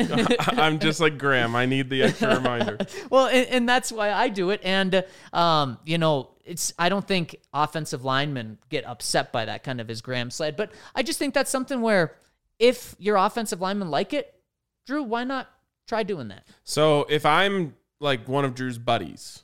I'm just like Graham. I need the extra reminder. Well, and that's why I do it. And, you know, I don't think offensive linemen get upset by that, kind of as Graham said, but I just think that's something where if your offensive linemen like it, Drew, why not try doing that? So if I'm like one of Drew's buddies,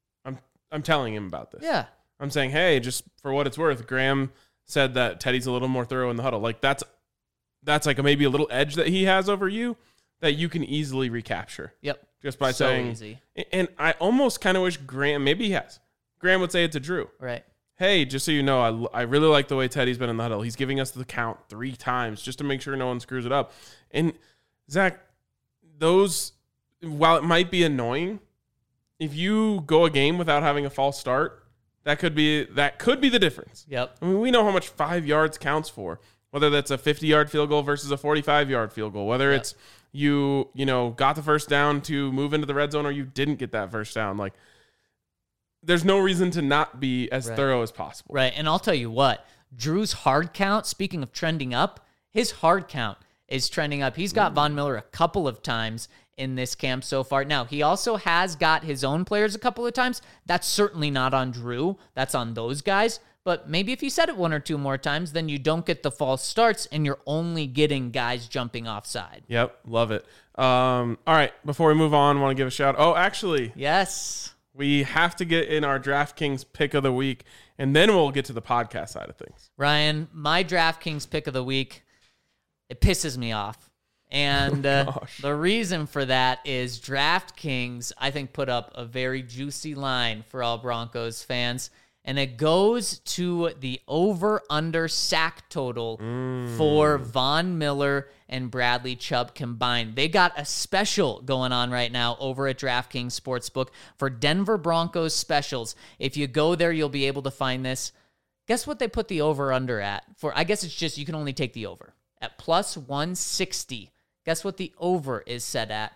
I'm telling him about this. Yeah. I'm saying, hey, just for what it's worth, Graham said that Teddy's a little more thorough in the huddle. Like that's like maybe a little edge that he has over you that you can easily recapture. Yep. Just by So saying, easy. And I almost kind of wish Graham, maybe he has. Graham would say it to Drew. Right. Hey, just so you know, I really like the way Teddy's been in the huddle. He's giving us the count 3 times just to make sure no one screws it up. And Zach, while it might be annoying, if you go a game without having a false start, that could be the difference. Yep. I mean, we know how much 5 yards counts for, whether that's a 50-yard field goal versus a 45-yard field goal, whether it's you got the first down to move into the red zone or you didn't get that first down. Like, there's no reason to not be as thorough as possible. Right. And I'll tell you what, Drew's hard count, speaking of trending up, his hard count is trending up. He's got Von Miller a couple of times in this camp so far. Now, he also has got his own players a couple of times. That's certainly not on Drew. That's on those guys. But maybe if you said it 1 or 2 more times, then you don't get the false starts and you're only getting guys jumping offside. Yep. Love it. All right. Before we move on, I want to give a shout. Oh, actually, Yes. we have to get in our DraftKings pick of the week, and then we'll get to the podcast side of things. Ryan, my DraftKings pick of the week, it pisses me off. And the reason for that is DraftKings, I think, put up a very juicy line for all Broncos fans. And it goes to the over-under sack total for Von Miller and Bradley Chubb combined. They got a special going on right now over at DraftKings Sportsbook for Denver Broncos specials. If you go there, you'll be able to find this. Guess what they put the over-under at? I guess it's just you can only take the over. At plus 160. Guess what the over is set at?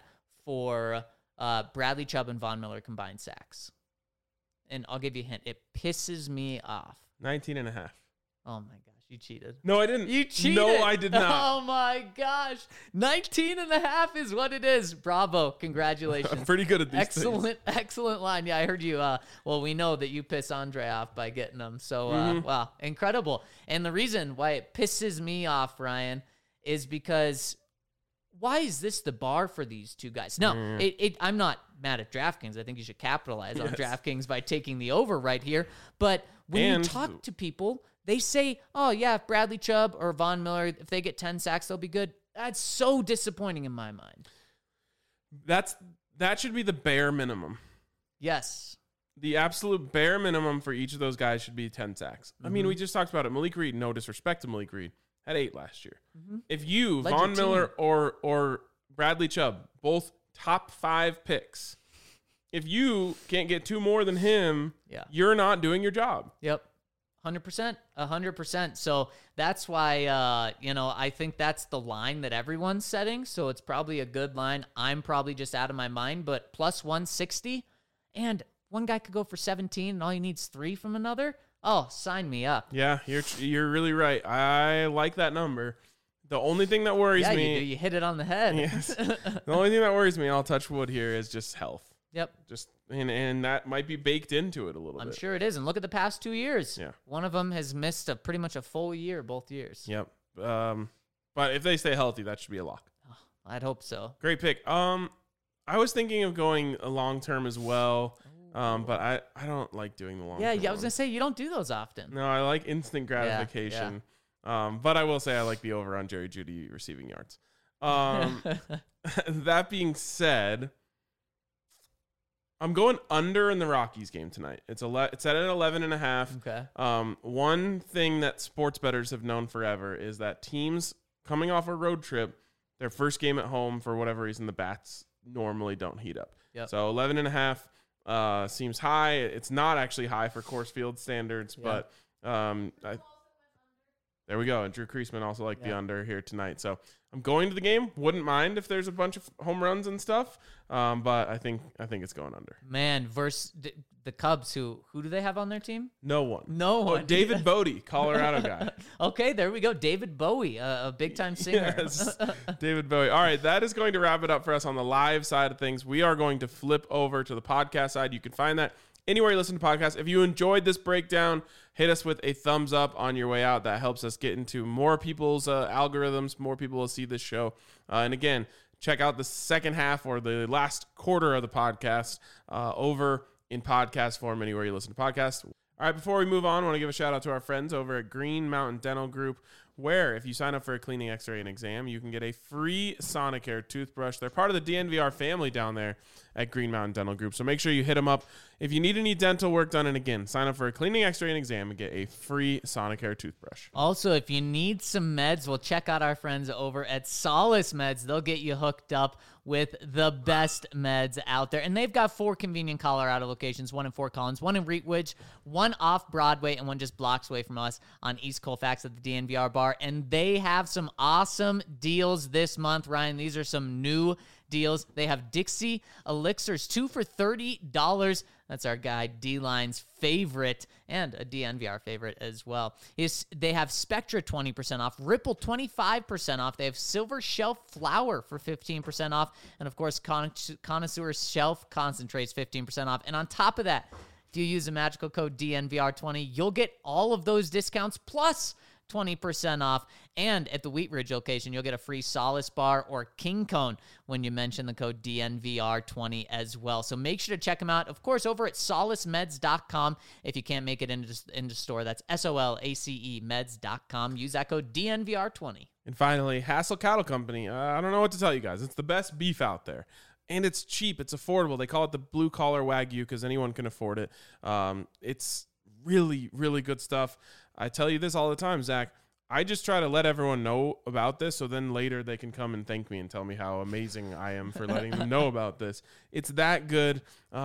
for Bradley Chubb and Von Miller combined sacks. And I'll give you a hint. It pisses me off. 19.5. Oh, my gosh. You cheated. No, I didn't. You cheated. No, I did not. Oh, my gosh. 19.5 is what it is. Bravo. Congratulations. I'm pretty good at these things. Excellent line. Yeah, I heard you. Well, we know that you piss Andre off by getting them. So, wow, incredible. And the reason why it pisses me off, Ryan, is because why is this the bar for these two guys? No, I'm not mad at DraftKings. I think you should capitalize on DraftKings by taking the over right here. But when you talk to people, they say, oh, yeah, if Bradley Chubb or Von Miller, if they get 10 sacks, they'll be good. That's so disappointing in my mind. That should be the bare minimum. Yes. The absolute bare minimum for each of those guys should be 10 sacks. I mean, we just talked about it. Malik Reed, no disrespect to Malik Reed, had 8 last year. If you, Von Miller or Bradley Chubb, both top 5 picks, if you can't get 2 more than him, you're not doing your job. Yep. 100%. So that's why, I think that's the line that everyone's setting. So it's probably a good line. I'm probably just out of my mind, but plus 160, and one guy could go for 17 and all he needs 3 from another. Oh, sign me up. Yeah, you're really right. I like that number. The only thing that worries me... You hit it on the head. Yes. The only thing that worries me, I'll touch wood here, is just health. Yep. And that might be baked into it a little bit. I'm sure it is. And look at the past 2 years. Yeah. One of them has missed pretty much a full year, both years. Yep. But if they stay healthy, that should be a lock. Oh, I'd hope so. Great pick. I was thinking of going a long term as well. But I don't like doing the long term. Yeah, I was going to say, you don't do those often. No, I like instant gratification. Yeah. But I will say I like the over on Jerry Jeudy receiving yards. That being said, I'm going under in the Rockies game tonight. It's set at 11.5. Okay. One thing that sports bettors have known forever is that teams coming off a road trip, their first game at home, for whatever reason, the bats normally don't heat up. Yep. So 11.5 seems high. It's not actually high for Coors Field standards, but there we go. And Drew Creasman also liked the under here tonight. So I'm going to the game. Wouldn't mind if there's a bunch of home runs and stuff. But I think it's going under. Man, versus the Cubs, who do they have on their team? No one. Oh, David Bodie, Colorado guy. Okay, there we go. David Bowie, a big-time singer. Yes, David Bowie. All right, that is going to wrap it up for us on the live side of things. We are going to flip over to the podcast side. You can find that anywhere you listen to podcasts. If you enjoyed this breakdown, hit us with a thumbs up on your way out. That helps us get into more people's algorithms. More people will see this show. And again, check out the second half or the last quarter of the podcast over in podcast form anywhere you listen to podcasts. All right, before we move on, I want to give a shout out to our friends over at Green Mountain Dental Group, where if you sign up for a cleaning, x-ray, and exam, you can get a free Sonicare toothbrush. They're part of the DNVR family down there at Green Mountain Dental Group, so make sure you hit them up if you need any dental work done. And again, sign up for a cleaning, x-ray, and exam and get a free Sonicare toothbrush. Also, if you need some meds, well, check out our friends over at Solace Meds. They'll get you hooked up with the best meds out there. And they've got 4 convenient Colorado locations, 1 in Fort Collins, 1 in Wheatridge, 1 off Broadway, and 1 just blocks away from us on East Colfax at the DNVR bar. And they have some awesome deals this month, Ryan. These are some new deals. They have Dixie Elixirs, 2 for $30. That's our guy D-Line's favorite and a DNVR favorite as well. They have Spectra 20% off, Ripple 25% off. They have Silver Shelf Flower for 15% off. And of course, Connoisseur Shelf Concentrates 15% off. And on top of that, if you use the magical code DNVR20, you'll get all of those discounts plus 20% off. And at the Wheatridge location, you'll get a free Solace bar or King Cone when you mention the code DNVR20 as well. So make sure to check them out, of course, over at solacemeds.com. If you can't make it into store, that's SOLACE meds.com. Use that code DNVR20. And finally, Hassel Cattle Company. I don't know what to tell you guys. It's the best beef out there. And it's cheap. It's affordable. They call it the blue-collar Wagyu because anyone can afford it. It's really, really good stuff. I tell you this all the time, Zach. I just try to let everyone know about this so then later they can come and thank me and tell me how amazing I am for letting them know about this. It's that good.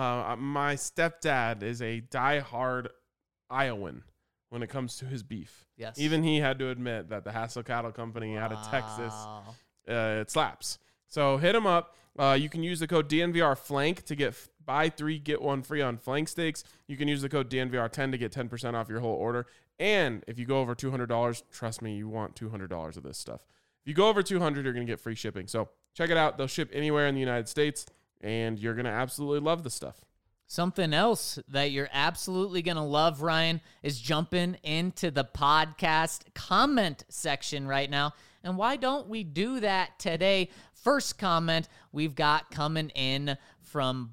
My stepdad is a diehard Iowan when it comes to his beef. Yes. Even he had to admit that the Hassel Cattle Company out of Texas, it slaps. So hit them up. You can use the code DNVRFlank to get buy 3, get 1 free on flank steaks. You can use the code DNVR10 to get 10% off your whole order. And if you go over $200, trust me, you want $200 of this stuff. If you go over $200, you're going to get free shipping. So check it out. They'll ship anywhere in the United States, and you're going to absolutely love the stuff. Something else that you're absolutely going to love, Ryan, is jumping into the podcast comment section right now. And why don't we do that today? First comment we've got coming in from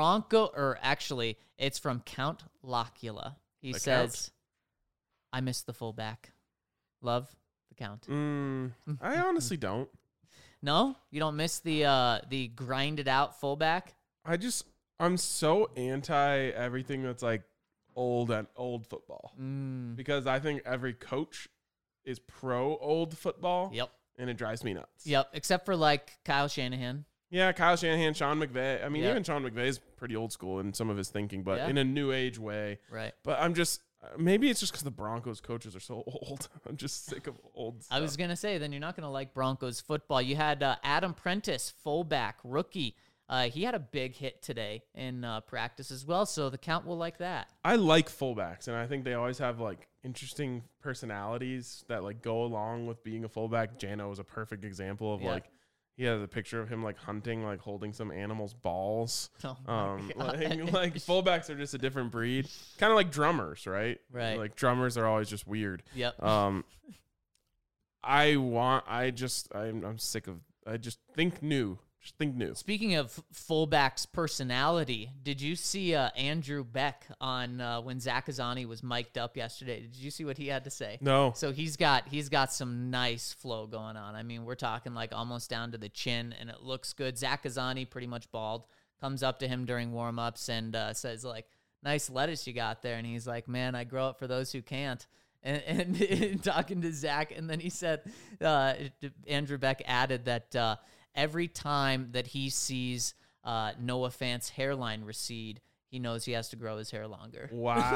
it's from Count Locula. He says, I miss the fullback. Love the Count. I honestly don't. No? You don't miss the grinded out fullback? I'm so anti everything that's like old football. Because I think every coach is pro old football. Yep. And it drives me nuts. Yep. Except for like Kyle Shanahan. Yeah, Kyle Shanahan, Sean McVay. I mean, even Sean McVay is pretty old school in some of his thinking, but in a new age way. Right. But maybe it's just because the Broncos coaches are so old. I'm just sick of old stuff. I was going to say, then you're not going to like Broncos football. You had Adam Prentice, fullback, rookie. He had a big hit today in practice as well, so the Count will like that. I like fullbacks, and I think they always have like interesting personalities that like go along with being a fullback. Jano is a perfect example of like he has a picture of him like hunting, like holding some animal's balls. Oh like fullbacks are just a different breed, kind of like drummers, right? Right. Like drummers are always just weird. Yep. I'm sick of. I just think new. Think new. Speaking of fullback's personality, did you see Andrew Beck on when Zach Azzani was mic'd up yesterday? Did you see what he had to say? No. So he's got some nice flow going on. I mean, we're talking like almost down to the chin, and it looks good. Zach Azzani, pretty much bald, comes up to him during warm-ups and says like, "Nice lettuce you got there," and he's like, "Man, I grow up for those who can't." And talking to Zach, and then he said, Andrew Beck added that. Every time that he sees Noah Fant's hairline recede, he knows he has to grow his hair longer.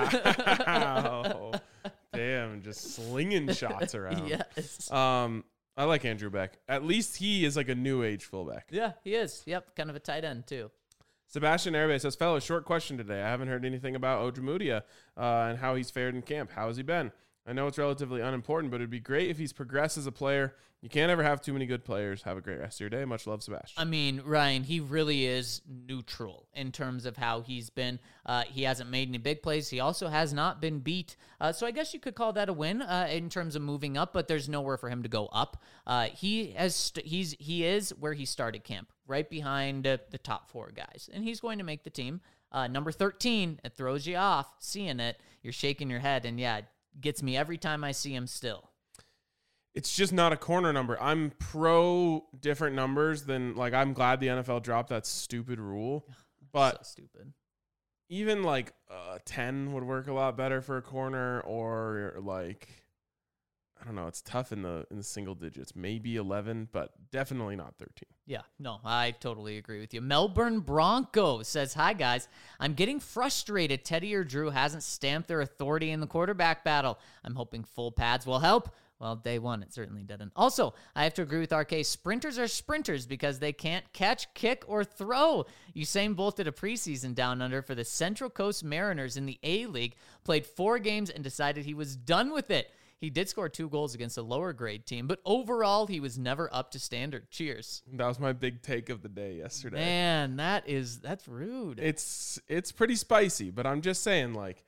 Wow. Damn, just slinging shots around. Yes. I like Andrew Beck. At least he is like a new age fullback. Yeah, he is. Yep, kind of a tight end too. Sebastian Herbe says, fellas, short question today. I haven't heard anything about Ojemudia and how he's fared in camp. How has he been? I know it's relatively unimportant, but it'd be great if he's progressed as a player. You can't ever have too many good players. Have a great rest of your day. Much love, Sebastian. I mean, Ryan, he really is neutral in terms of how he's been. He hasn't made any big plays. He also has not been beat. So I guess you could call that a win in terms of moving up, but there's nowhere for him to go up. He is where he started camp, right behind the top 4 guys, and he's going to make the team. Number 13, it throws you off. Seeing it, you're shaking your head, and yeah, gets me every time I see him still. It's just not a corner number. I'm pro different numbers than, like, I'm glad the NFL dropped that stupid rule. But so stupid. Even like 10 would work a lot better for a corner, or like, I don't know, it's tough in the single digits. Maybe 11, but definitely not 13. Yeah, no, I totally agree with you. Melbourne Broncos says, hi, guys. I'm getting frustrated Teddy or Drew hasn't stamped their authority in the quarterback battle. I'm hoping full pads will help. Well, day one, it certainly didn't. Also, I have to agree with RK. Sprinters are sprinters because they can't catch, kick, or throw. Usain Bolt did a preseason down under for the Central Coast Mariners in the A-League, played 4 games, and decided he was done with it. He did score 2 goals against a lower grade team, but overall, he was never up to standard. Cheers. That was my big take of the day yesterday. Man, that's rude. It's pretty spicy, but I'm just saying, like,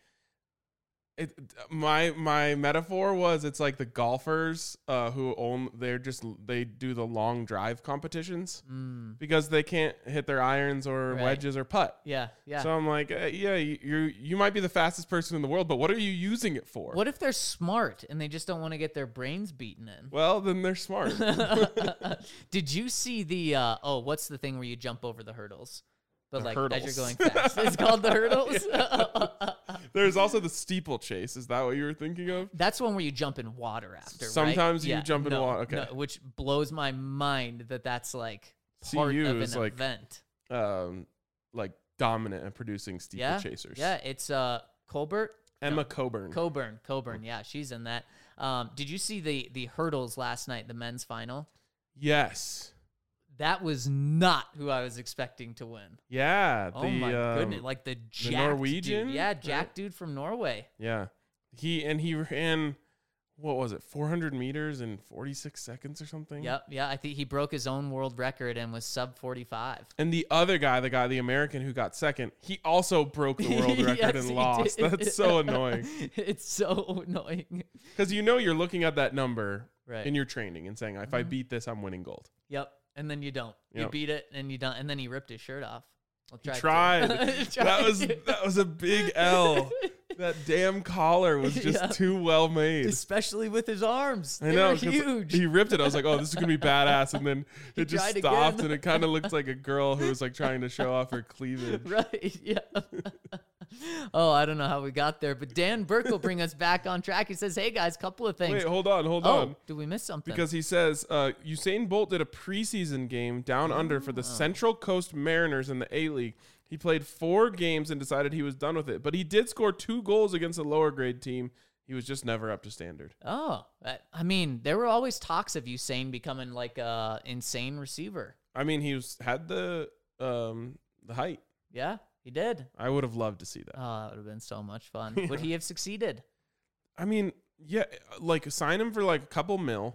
my metaphor was, it's like the golfers they do the long drive competitions because they can't hit their irons or wedges or putt. Yeah. So I'm like, you might be the fastest person in the world, but what are you using it for? What if they're smart and they just don't want to get their brains beaten in? Well, then they're smart. Did you see the what's the thing where you jump over the hurdles? But like hurdles. as you're going fast. It's called the hurdles. There's also the steeple-chase. Is that what you were thinking of? That's one where you jump in water after, Sometimes right? you jump in water. Okay. No, which blows my mind that's like part CU of an is like, event. Like dominant at producing steeplechasers. Yeah, it's Colbert. Emma Coburn. Coburn. Yeah, she's in that. Did you see the hurdles last night, the men's final? Yes. That was not who I was expecting to win. Yeah. Oh my goodness. Like the jacked Norwegian? dude. Yeah, Jack dude from Norway. Yeah. He ran, what was it, 400 meters in 46 seconds or something? Yep. Yeah. I think he broke his own world record and was sub 45. And the other guy, the American who got second, he also broke the world record Yes, and he lost. did. That's so annoying. It's so annoying. Because you're looking at that number Right. in your training and saying, if I beat this, I'm winning gold. Yep. And then you don't. You Yep. beat it and you don't. And then he ripped his shirt off. Well, He tried. That was a big L. That damn collar was just Yeah. too well made. Especially with his arms. I They know, were 'cause huge. he ripped it. I was like, "Oh, this is gonna be badass," and then He it just tried stopped, again. and it kind of looked like a girl who was like trying to show off her cleavage. Right. Yeah. Oh, I don't know how we got there, but Dan Burke will bring us back on track. He says, "Hey guys, couple of things." Wait, hold on. Did we miss something? Because he says Usain Bolt did a preseason game down under for the Central Coast Mariners in the A-League. He played 4 games and decided he was done with it, but he did score 2 goals against a lower grade team. He was just never up to standard. I mean, there were always talks of Usain becoming like a insane receiver. I mean, had the height. Yeah, he did. I would have loved to see that. Oh, that would have been so much fun. Would he have succeeded? I mean, yeah, like sign him for like a couple mil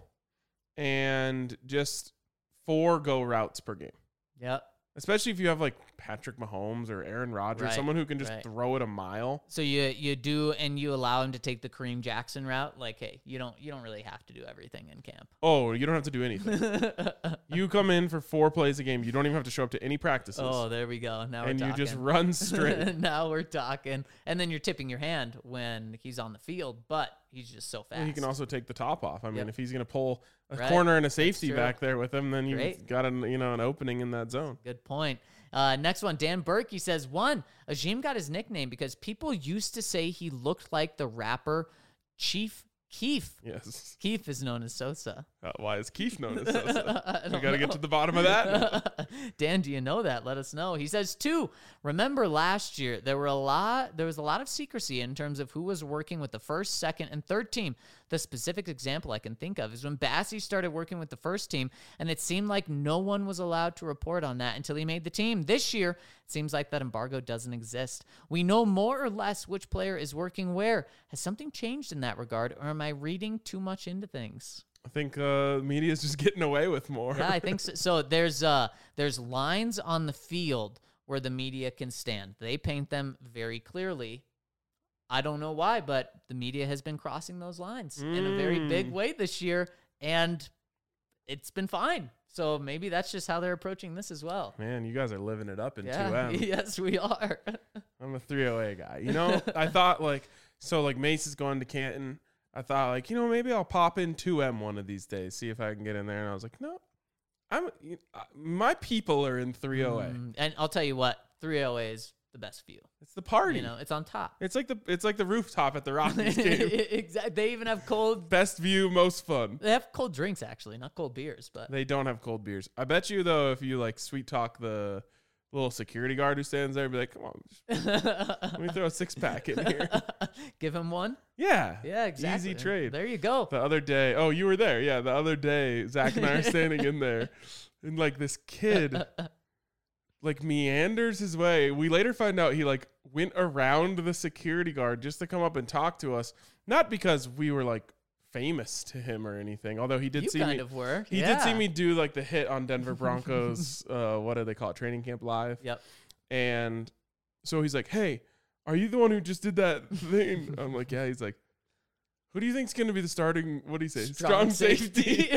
and just 4 go routes per game. Yep. Especially if you have like Patrick Mahomes or Aaron Rodgers, Right, someone who can just right. throw it a mile. So you do, and you allow him to take the Kareem Jackson route. Like, hey, you don't really have to do everything in camp. Oh, you don't have to do anything. You come in for 4 plays a game. You don't even have to show up to any practices. Oh, there we go. Now and we're you talking. just run straight. Now we're talking. And then you're tipping your hand when he's on the field, but he's just so fast. He can also take the top off. I mean, Yep. if he's going to pull a Right. corner and a safety true. back there with him, then you've Great. got an opening in that zone. Good point. Next one, Dan Burke. He says, Ajim got his nickname because people used to say he looked like the rapper Chief Keef. Yes. Keef is known as Sosa. Why is Keith known as Sosa? I We don't got to get know. to the bottom of that. Dan, do you know that? Let us know. He says, 2, remember last year, there was a lot of secrecy in terms of who was working with the first, second, and third team. The specific example I can think of is when Bassie started working with the first team, and it seemed like no one was allowed to report on that until he made the team. This year, it seems like that embargo doesn't exist. We know more or less which player is working where. Has something changed in that regard, or am I reading too much into things? I think media is just getting away with more. Yeah, I think so. So there's lines on the field where the media can stand. They paint them very clearly. I don't know why, but the media has been crossing those lines in a very big way this year, and it's been fine. So maybe that's just how they're approaching this as well. Man, you guys are living it up in Yeah, 2M. yes, we are. I'm a 308 guy. You know, I thought like Mace is going to Canton. I thought like, maybe I'll pop in 2M one of these days, see if I can get in there. And I was like, no, my people are in 308. And I'll tell you what, 308 is the best view. It's the party. It's on top. It's like the rooftop at the Rockies game. Exactly. They even have cold. Best view, most fun. They have cold drinks actually, not cold beers, but They don't have cold beers. I bet you though, if you like sweet talk the little security guard who stands there, be like, come on, let me throw a 6-pack in here. give him one. Yeah. Yeah, exactly. Easy trade. There you go. The other day, oh, you were there. Yeah, the other day, Zach and I are standing in there, and like this kid, like meanders his way. We later find out he like went around the security guard just to come up and talk to us. Not because we were like famous to him or anything, although he did You see kind me. of were. He Yeah. did see me do like the hit on Denver Broncos. What do they call it? Training Camp Live. Yep. And so he's like, "Hey, are you the one who just did that thing?" I'm like, "Yeah." He's like, "Who do you think's going to be the starting? What do you say? Strong safety."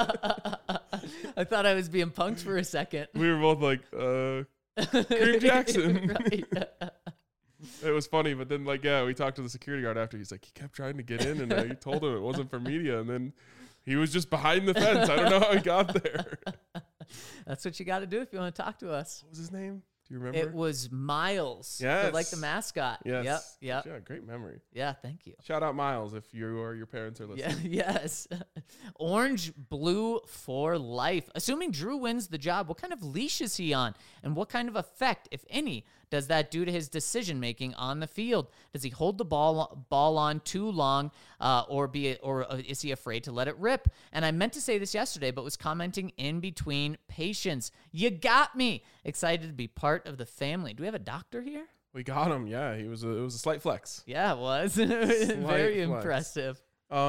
I thought I was being punked for a second. We were both like, Kareem Jackson. Right. It was funny, but then like, yeah, we talked to the security guard after. He's like, he kept trying to get in, and I told him it wasn't for media, and then he was just behind the fence. I don't know how he got there. That's what you got to do if you want to talk to us. What was his name? Do you remember? It was Miles. Yes. Like the mascot. Yes. Yep. Yeah, great memory. Yeah, thank you. Shout out Miles if you or your parents are listening. Yeah, yes. Orange blue for life. Assuming Drew wins the job, what kind of leash is he on? And what kind of effect, if any, does that do to his decision-making on the field? Does he hold the ball on too long, or is he afraid to let it rip? And I meant to say this yesterday, but was commenting in between patience. You got me. Excited to be part of the family. Do we have a doctor here? We got him. Yeah, it was a slight flex. Yeah, it was. Very impressive.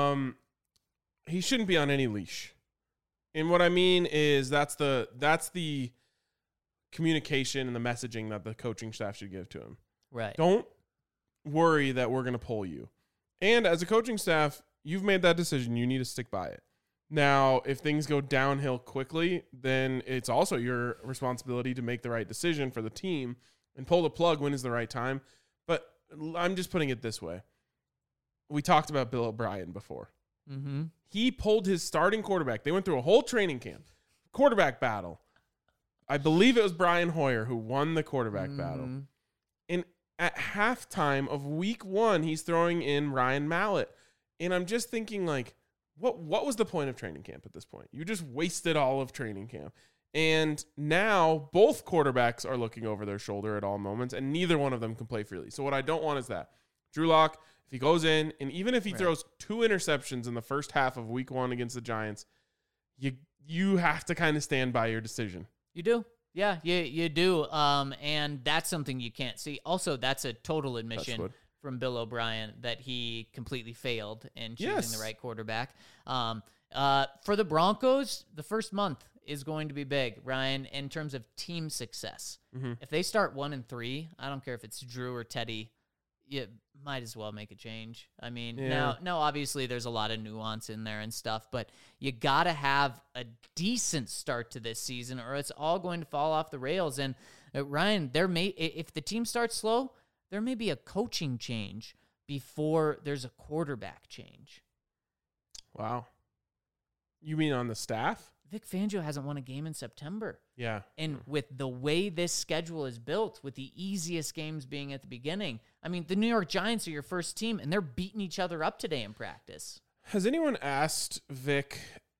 He shouldn't be on any leash. And what I mean is that's the communication and the messaging that the coaching staff should give to him. Right. Don't worry that we're going to pull you. And as a coaching staff, you've made that decision. You need to stick by it. Now, if things go downhill quickly, then it's also your responsibility to make the right decision for the team and pull the plug when is the right time. But I'm just putting it this way. We talked about Bill O'Brien before. Mm-hmm. He pulled his starting quarterback. They went through a whole training camp, quarterback battle. I believe it was Brian Hoyer who won the quarterback battle. And at halftime of week 1, he's throwing in Ryan Mallett. And I'm just thinking, like, what was the point of training camp at this point? You just wasted all of training camp. And now both quarterbacks are looking over their shoulder at all moments, and neither one of them can play freely. So what I don't want is that. Drew Lock, if he goes in, and even if he throws 2 interceptions in the first half of week 1 against the Giants, you have to kind of stand by your decision. You do. Yeah, you do. And that's something you can't see. Also, that's a total admission from Bill O'Brien that he completely failed in choosing the right quarterback. For the Broncos, the first month is going to be big, Ryan, in terms of team success. Mm-hmm. If they start 1-3, I don't care if it's Drew or Teddy, you might as well make a change. I mean, now obviously there's a lot of nuance in there and stuff, but you got to have a decent start to this season or it's all going to fall off the rails. And Ryan, if the team starts slow, there may be a coaching change before there's a quarterback change. Wow. You mean on the staff? Vic Fangio hasn't won a game in September. Yeah. And with the way this schedule is built, with the easiest games being at the beginning, I mean, the New York Giants are your first team, and they're beating each other up today in practice. Has anyone asked Vic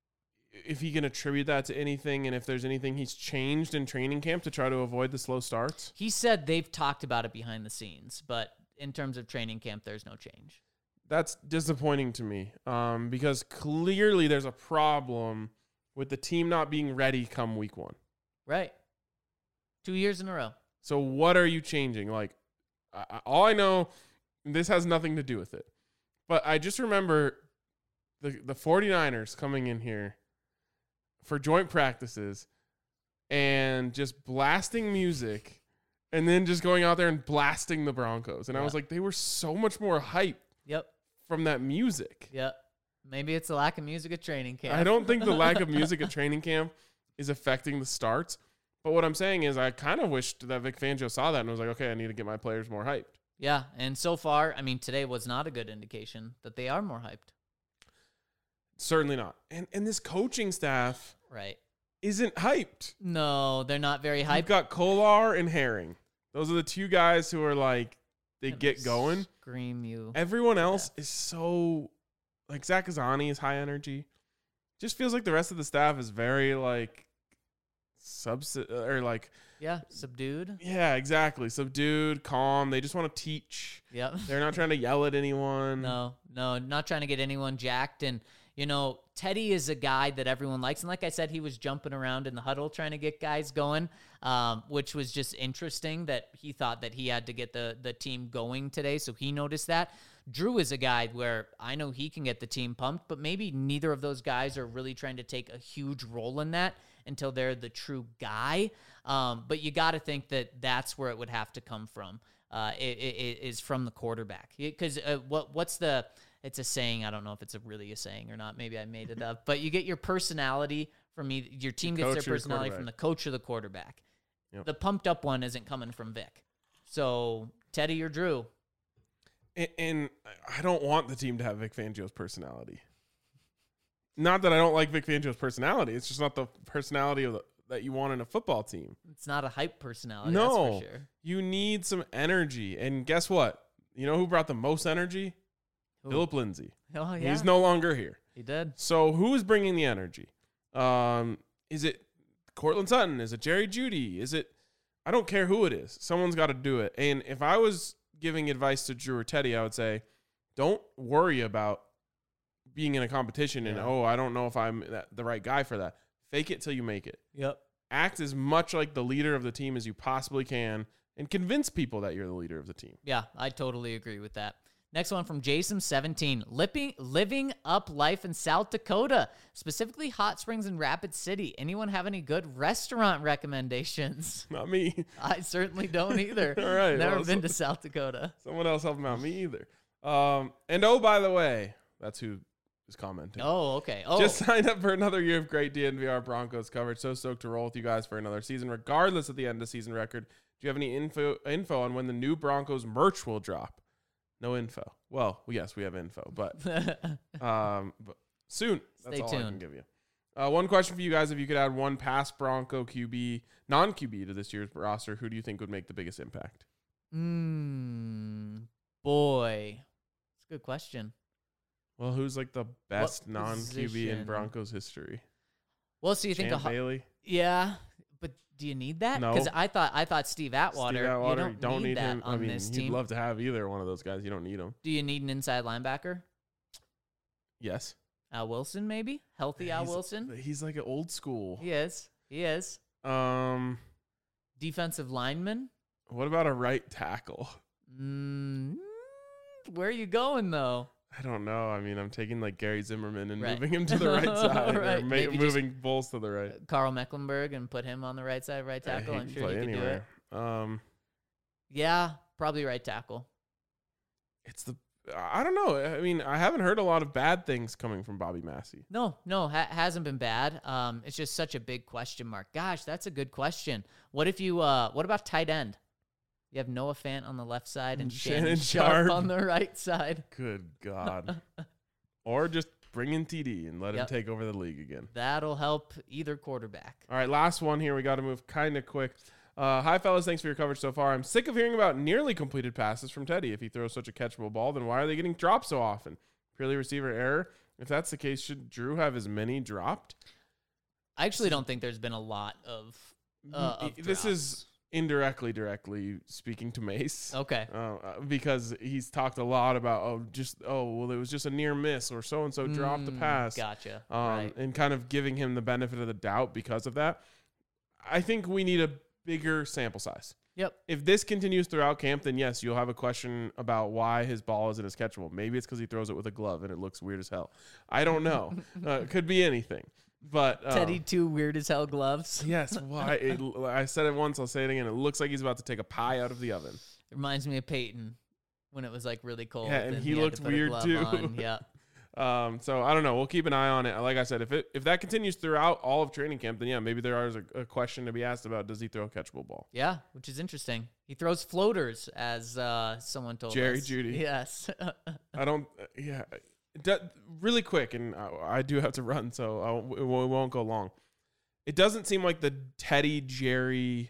if he can attribute that to anything and if there's anything he's changed in training camp to try to avoid the slow starts? He said they've talked about it behind the scenes, but in terms of training camp, there's no change. That's disappointing to me because clearly there's a problem with the team not being ready come week 1. Right. 2 years in a row. So what are you changing? Like, all I know, this has nothing to do with it. But I just remember the 49ers coming in here for joint practices and just blasting music and then just going out there and blasting the Broncos. And I was like, they were so much more hype from that music. Yep. Maybe it's the lack of music at training camp. I don't think the lack of music at training camp is affecting the starts. But what I'm saying is I kind of wished that Vic Fangio saw that and was like, okay, I need to get my players more hyped. Yeah, and so far, I mean, today was not a good indication that they are more hyped. Certainly not. And this coaching staff isn't hyped. No, they're not very hyped. You've got Kolar and Herring. Those are the 2 guys who are like, they get going. Scream you. Everyone else is so... Like, Zach Azzani is high energy. Just feels like the rest of the staff is very, like, subdued. Yeah, exactly. Subdued, calm. They just want to teach. Yep. They're not trying to yell at anyone. No, not trying to get anyone jacked. And, you know, Teddy is a guy that everyone likes. And like I said, he was jumping around in the huddle trying to get guys going, which was just interesting that he thought that he had to get the team going today. So he noticed that. Drew is a guy where I know he can get the team pumped, but maybe neither of those guys are really trying to take a huge role in that until they're the true guy. But you got to think that that's where it would have to come from. It is from the quarterback. Because it's a saying. I don't know if it's really a saying or not. Maybe I made it up. But you get your personality from your team gets their personality from the coach or the quarterback. Yep. The pumped up one isn't coming from Vic. So Teddy or Drew. And I don't want the team to have Vic Fangio's personality. Not that I don't like Vic Fangio's personality. It's just not the personality that you want in a football team. It's not a hype personality, no, that's for sure. You need some energy. And guess what? You know who brought the most energy? Who? Philip Lindsay. Oh, yeah. He's no longer here. He did. So who is bringing the energy? Is it Cortland Sutton? Is it Jerry Jeudy? Is it I don't care who it is. Someone's got to do it. And if I was giving advice to Drew or Teddy, I would say, don't worry about being in a competition and, I don't know if I'm the right guy for that. Fake it till you make it. Yep. Act as much like the leader of the team as you possibly can and convince people that you're the leader of the team. Yeah, I totally agree with that. Next one from Jason17. Living up life in South Dakota, specifically Hot Springs and Rapid City. Anyone have any good restaurant recommendations? Not me. I certainly don't either. All right. Never been to South Dakota. Someone else help him out. Me either. And by the way, that's who is commenting. Oh, okay. Oh, Just signed up for another year of great DNVR Broncos coverage. So stoked to roll with you guys for another season, regardless of the end of season record. Do you have any info on when the new Broncos merch will drop? No info. Well, yes, we have info, but soon. That's Stay all tuned. I can give you. One question for you guys: if you could add one past Bronco QB, non-QB to this year's roster, who do you think would make the biggest impact? Boy, that's a good question. Well, who's like the best non-QB in position? Broncos history? Well, so you think Champ Bailey? Yeah, but do you need that? No. Because I thought Steve Atwater. Steve Atwater, you don't need that him. on I mean, this you'd team. love to have either one of those guys. You don't need them. Do you need an inside linebacker? Yes. Al Wilson, maybe healthy Al He's- Wilson. He's like an old school. He is. Defensive lineman. What about a right tackle? Where are you going though? I don't know. I mean, I'm taking like Gary Zimmerman and Right. moving him to the right side, Right. or Maybe moving Bulls to the right. Carl Mecklenburg and put him on the right side, right tackle. He I'm can sure play he can do it. anywhere. Yeah, probably right tackle. I don't know. I mean, I haven't heard a lot of bad things coming from Bobby Massey. No, hasn't been bad. It's just such a big question mark. Gosh, that's a good question. What about tight end? You have Noah Fant on the left side and Shannon Sharp on the right side. Good God. Or just bring in TD and let him take over the league again. That'll help either quarterback. All right, last one here. We got to move kind of quick. Hi, fellas. Thanks for your coverage so far. I'm sick of hearing about nearly completed passes from Teddy. If he throws such a catchable ball, then why are they getting dropped so often? Purely receiver error? If that's the case, should Drew have as many dropped? I actually don't think there's been a lot of This is directly speaking to Mace. Okay. Because he's talked a lot about, it was just a near miss, or so-and-so dropped the pass. Gotcha. Right. And kind of giving him the benefit of the doubt because of that. I think we need a bigger sample size. Yep. If this continues throughout camp, then yes, you'll have a question about why his ball isn't as catchable. Maybe it's because he throws it with a glove and it looks weird as hell. I don't know. It could be anything. But Teddy, two weird as hell gloves. Yes. Why? I said it once. I'll say it again. It looks like he's about to take a pie out of the oven. It reminds me of Peyton when it was like really cold. Yeah, and he had looked to put a weird glove too. on. Yeah. So I don't know. We'll keep an eye on it. Like I said, if that continues throughout all of training camp, then yeah, maybe there is a question to be asked about: does he throw a catchable ball? Yeah, which is interesting. He throws floaters, as someone told Jerry us. Jeudy. Yes. I don't. Yeah. Really quick, and I do have to run, so we won't go long. It doesn't seem like the Teddy Jerry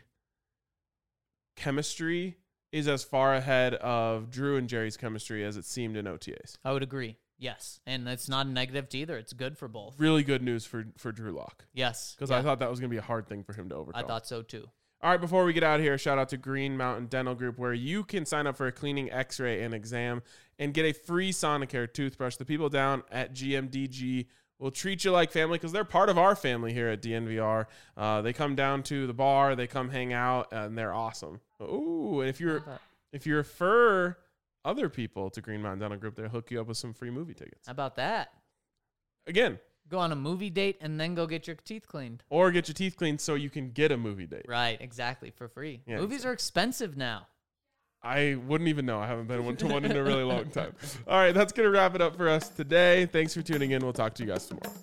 chemistry is as far ahead of Drew and Jerry's chemistry as it seemed in OTAs. I would agree. Yes, and it's not a negative to either. It's good for both. Really good news for Drew Lock. Yes, Because I thought that was going to be a hard thing for him to overcome. I thought so too. All right, before we get out of here, shout out to Green Mountain Dental Group, where you can sign up for a cleaning, x-ray, and exam and get a free Sonicare toothbrush. The people down at GMDG will treat you like family because they're part of our family here at DNVR. They come down to the bar, they come hang out, and they're awesome. Ooh, and if you refer other people to Green Mountain Dental Group, they'll hook you up with some free movie tickets. How about that? Again. Go on a movie date and then go get your teeth cleaned. Or get your teeth cleaned so you can get a movie date. Right, exactly, for free. Yeah, Movies are expensive now. I wouldn't even know. I haven't been to one in a really long time. All right, that's going to wrap it up for us today. Thanks for tuning in. We'll talk to you guys tomorrow.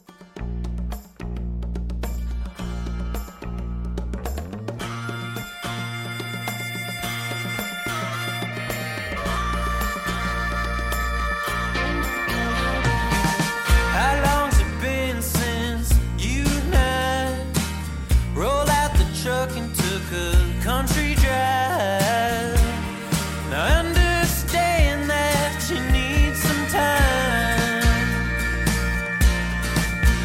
How long's it been since you and I rolled out the truck and took a country drive? Now I understand that you need some time.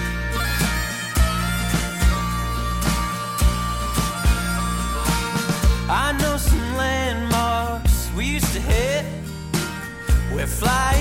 to fly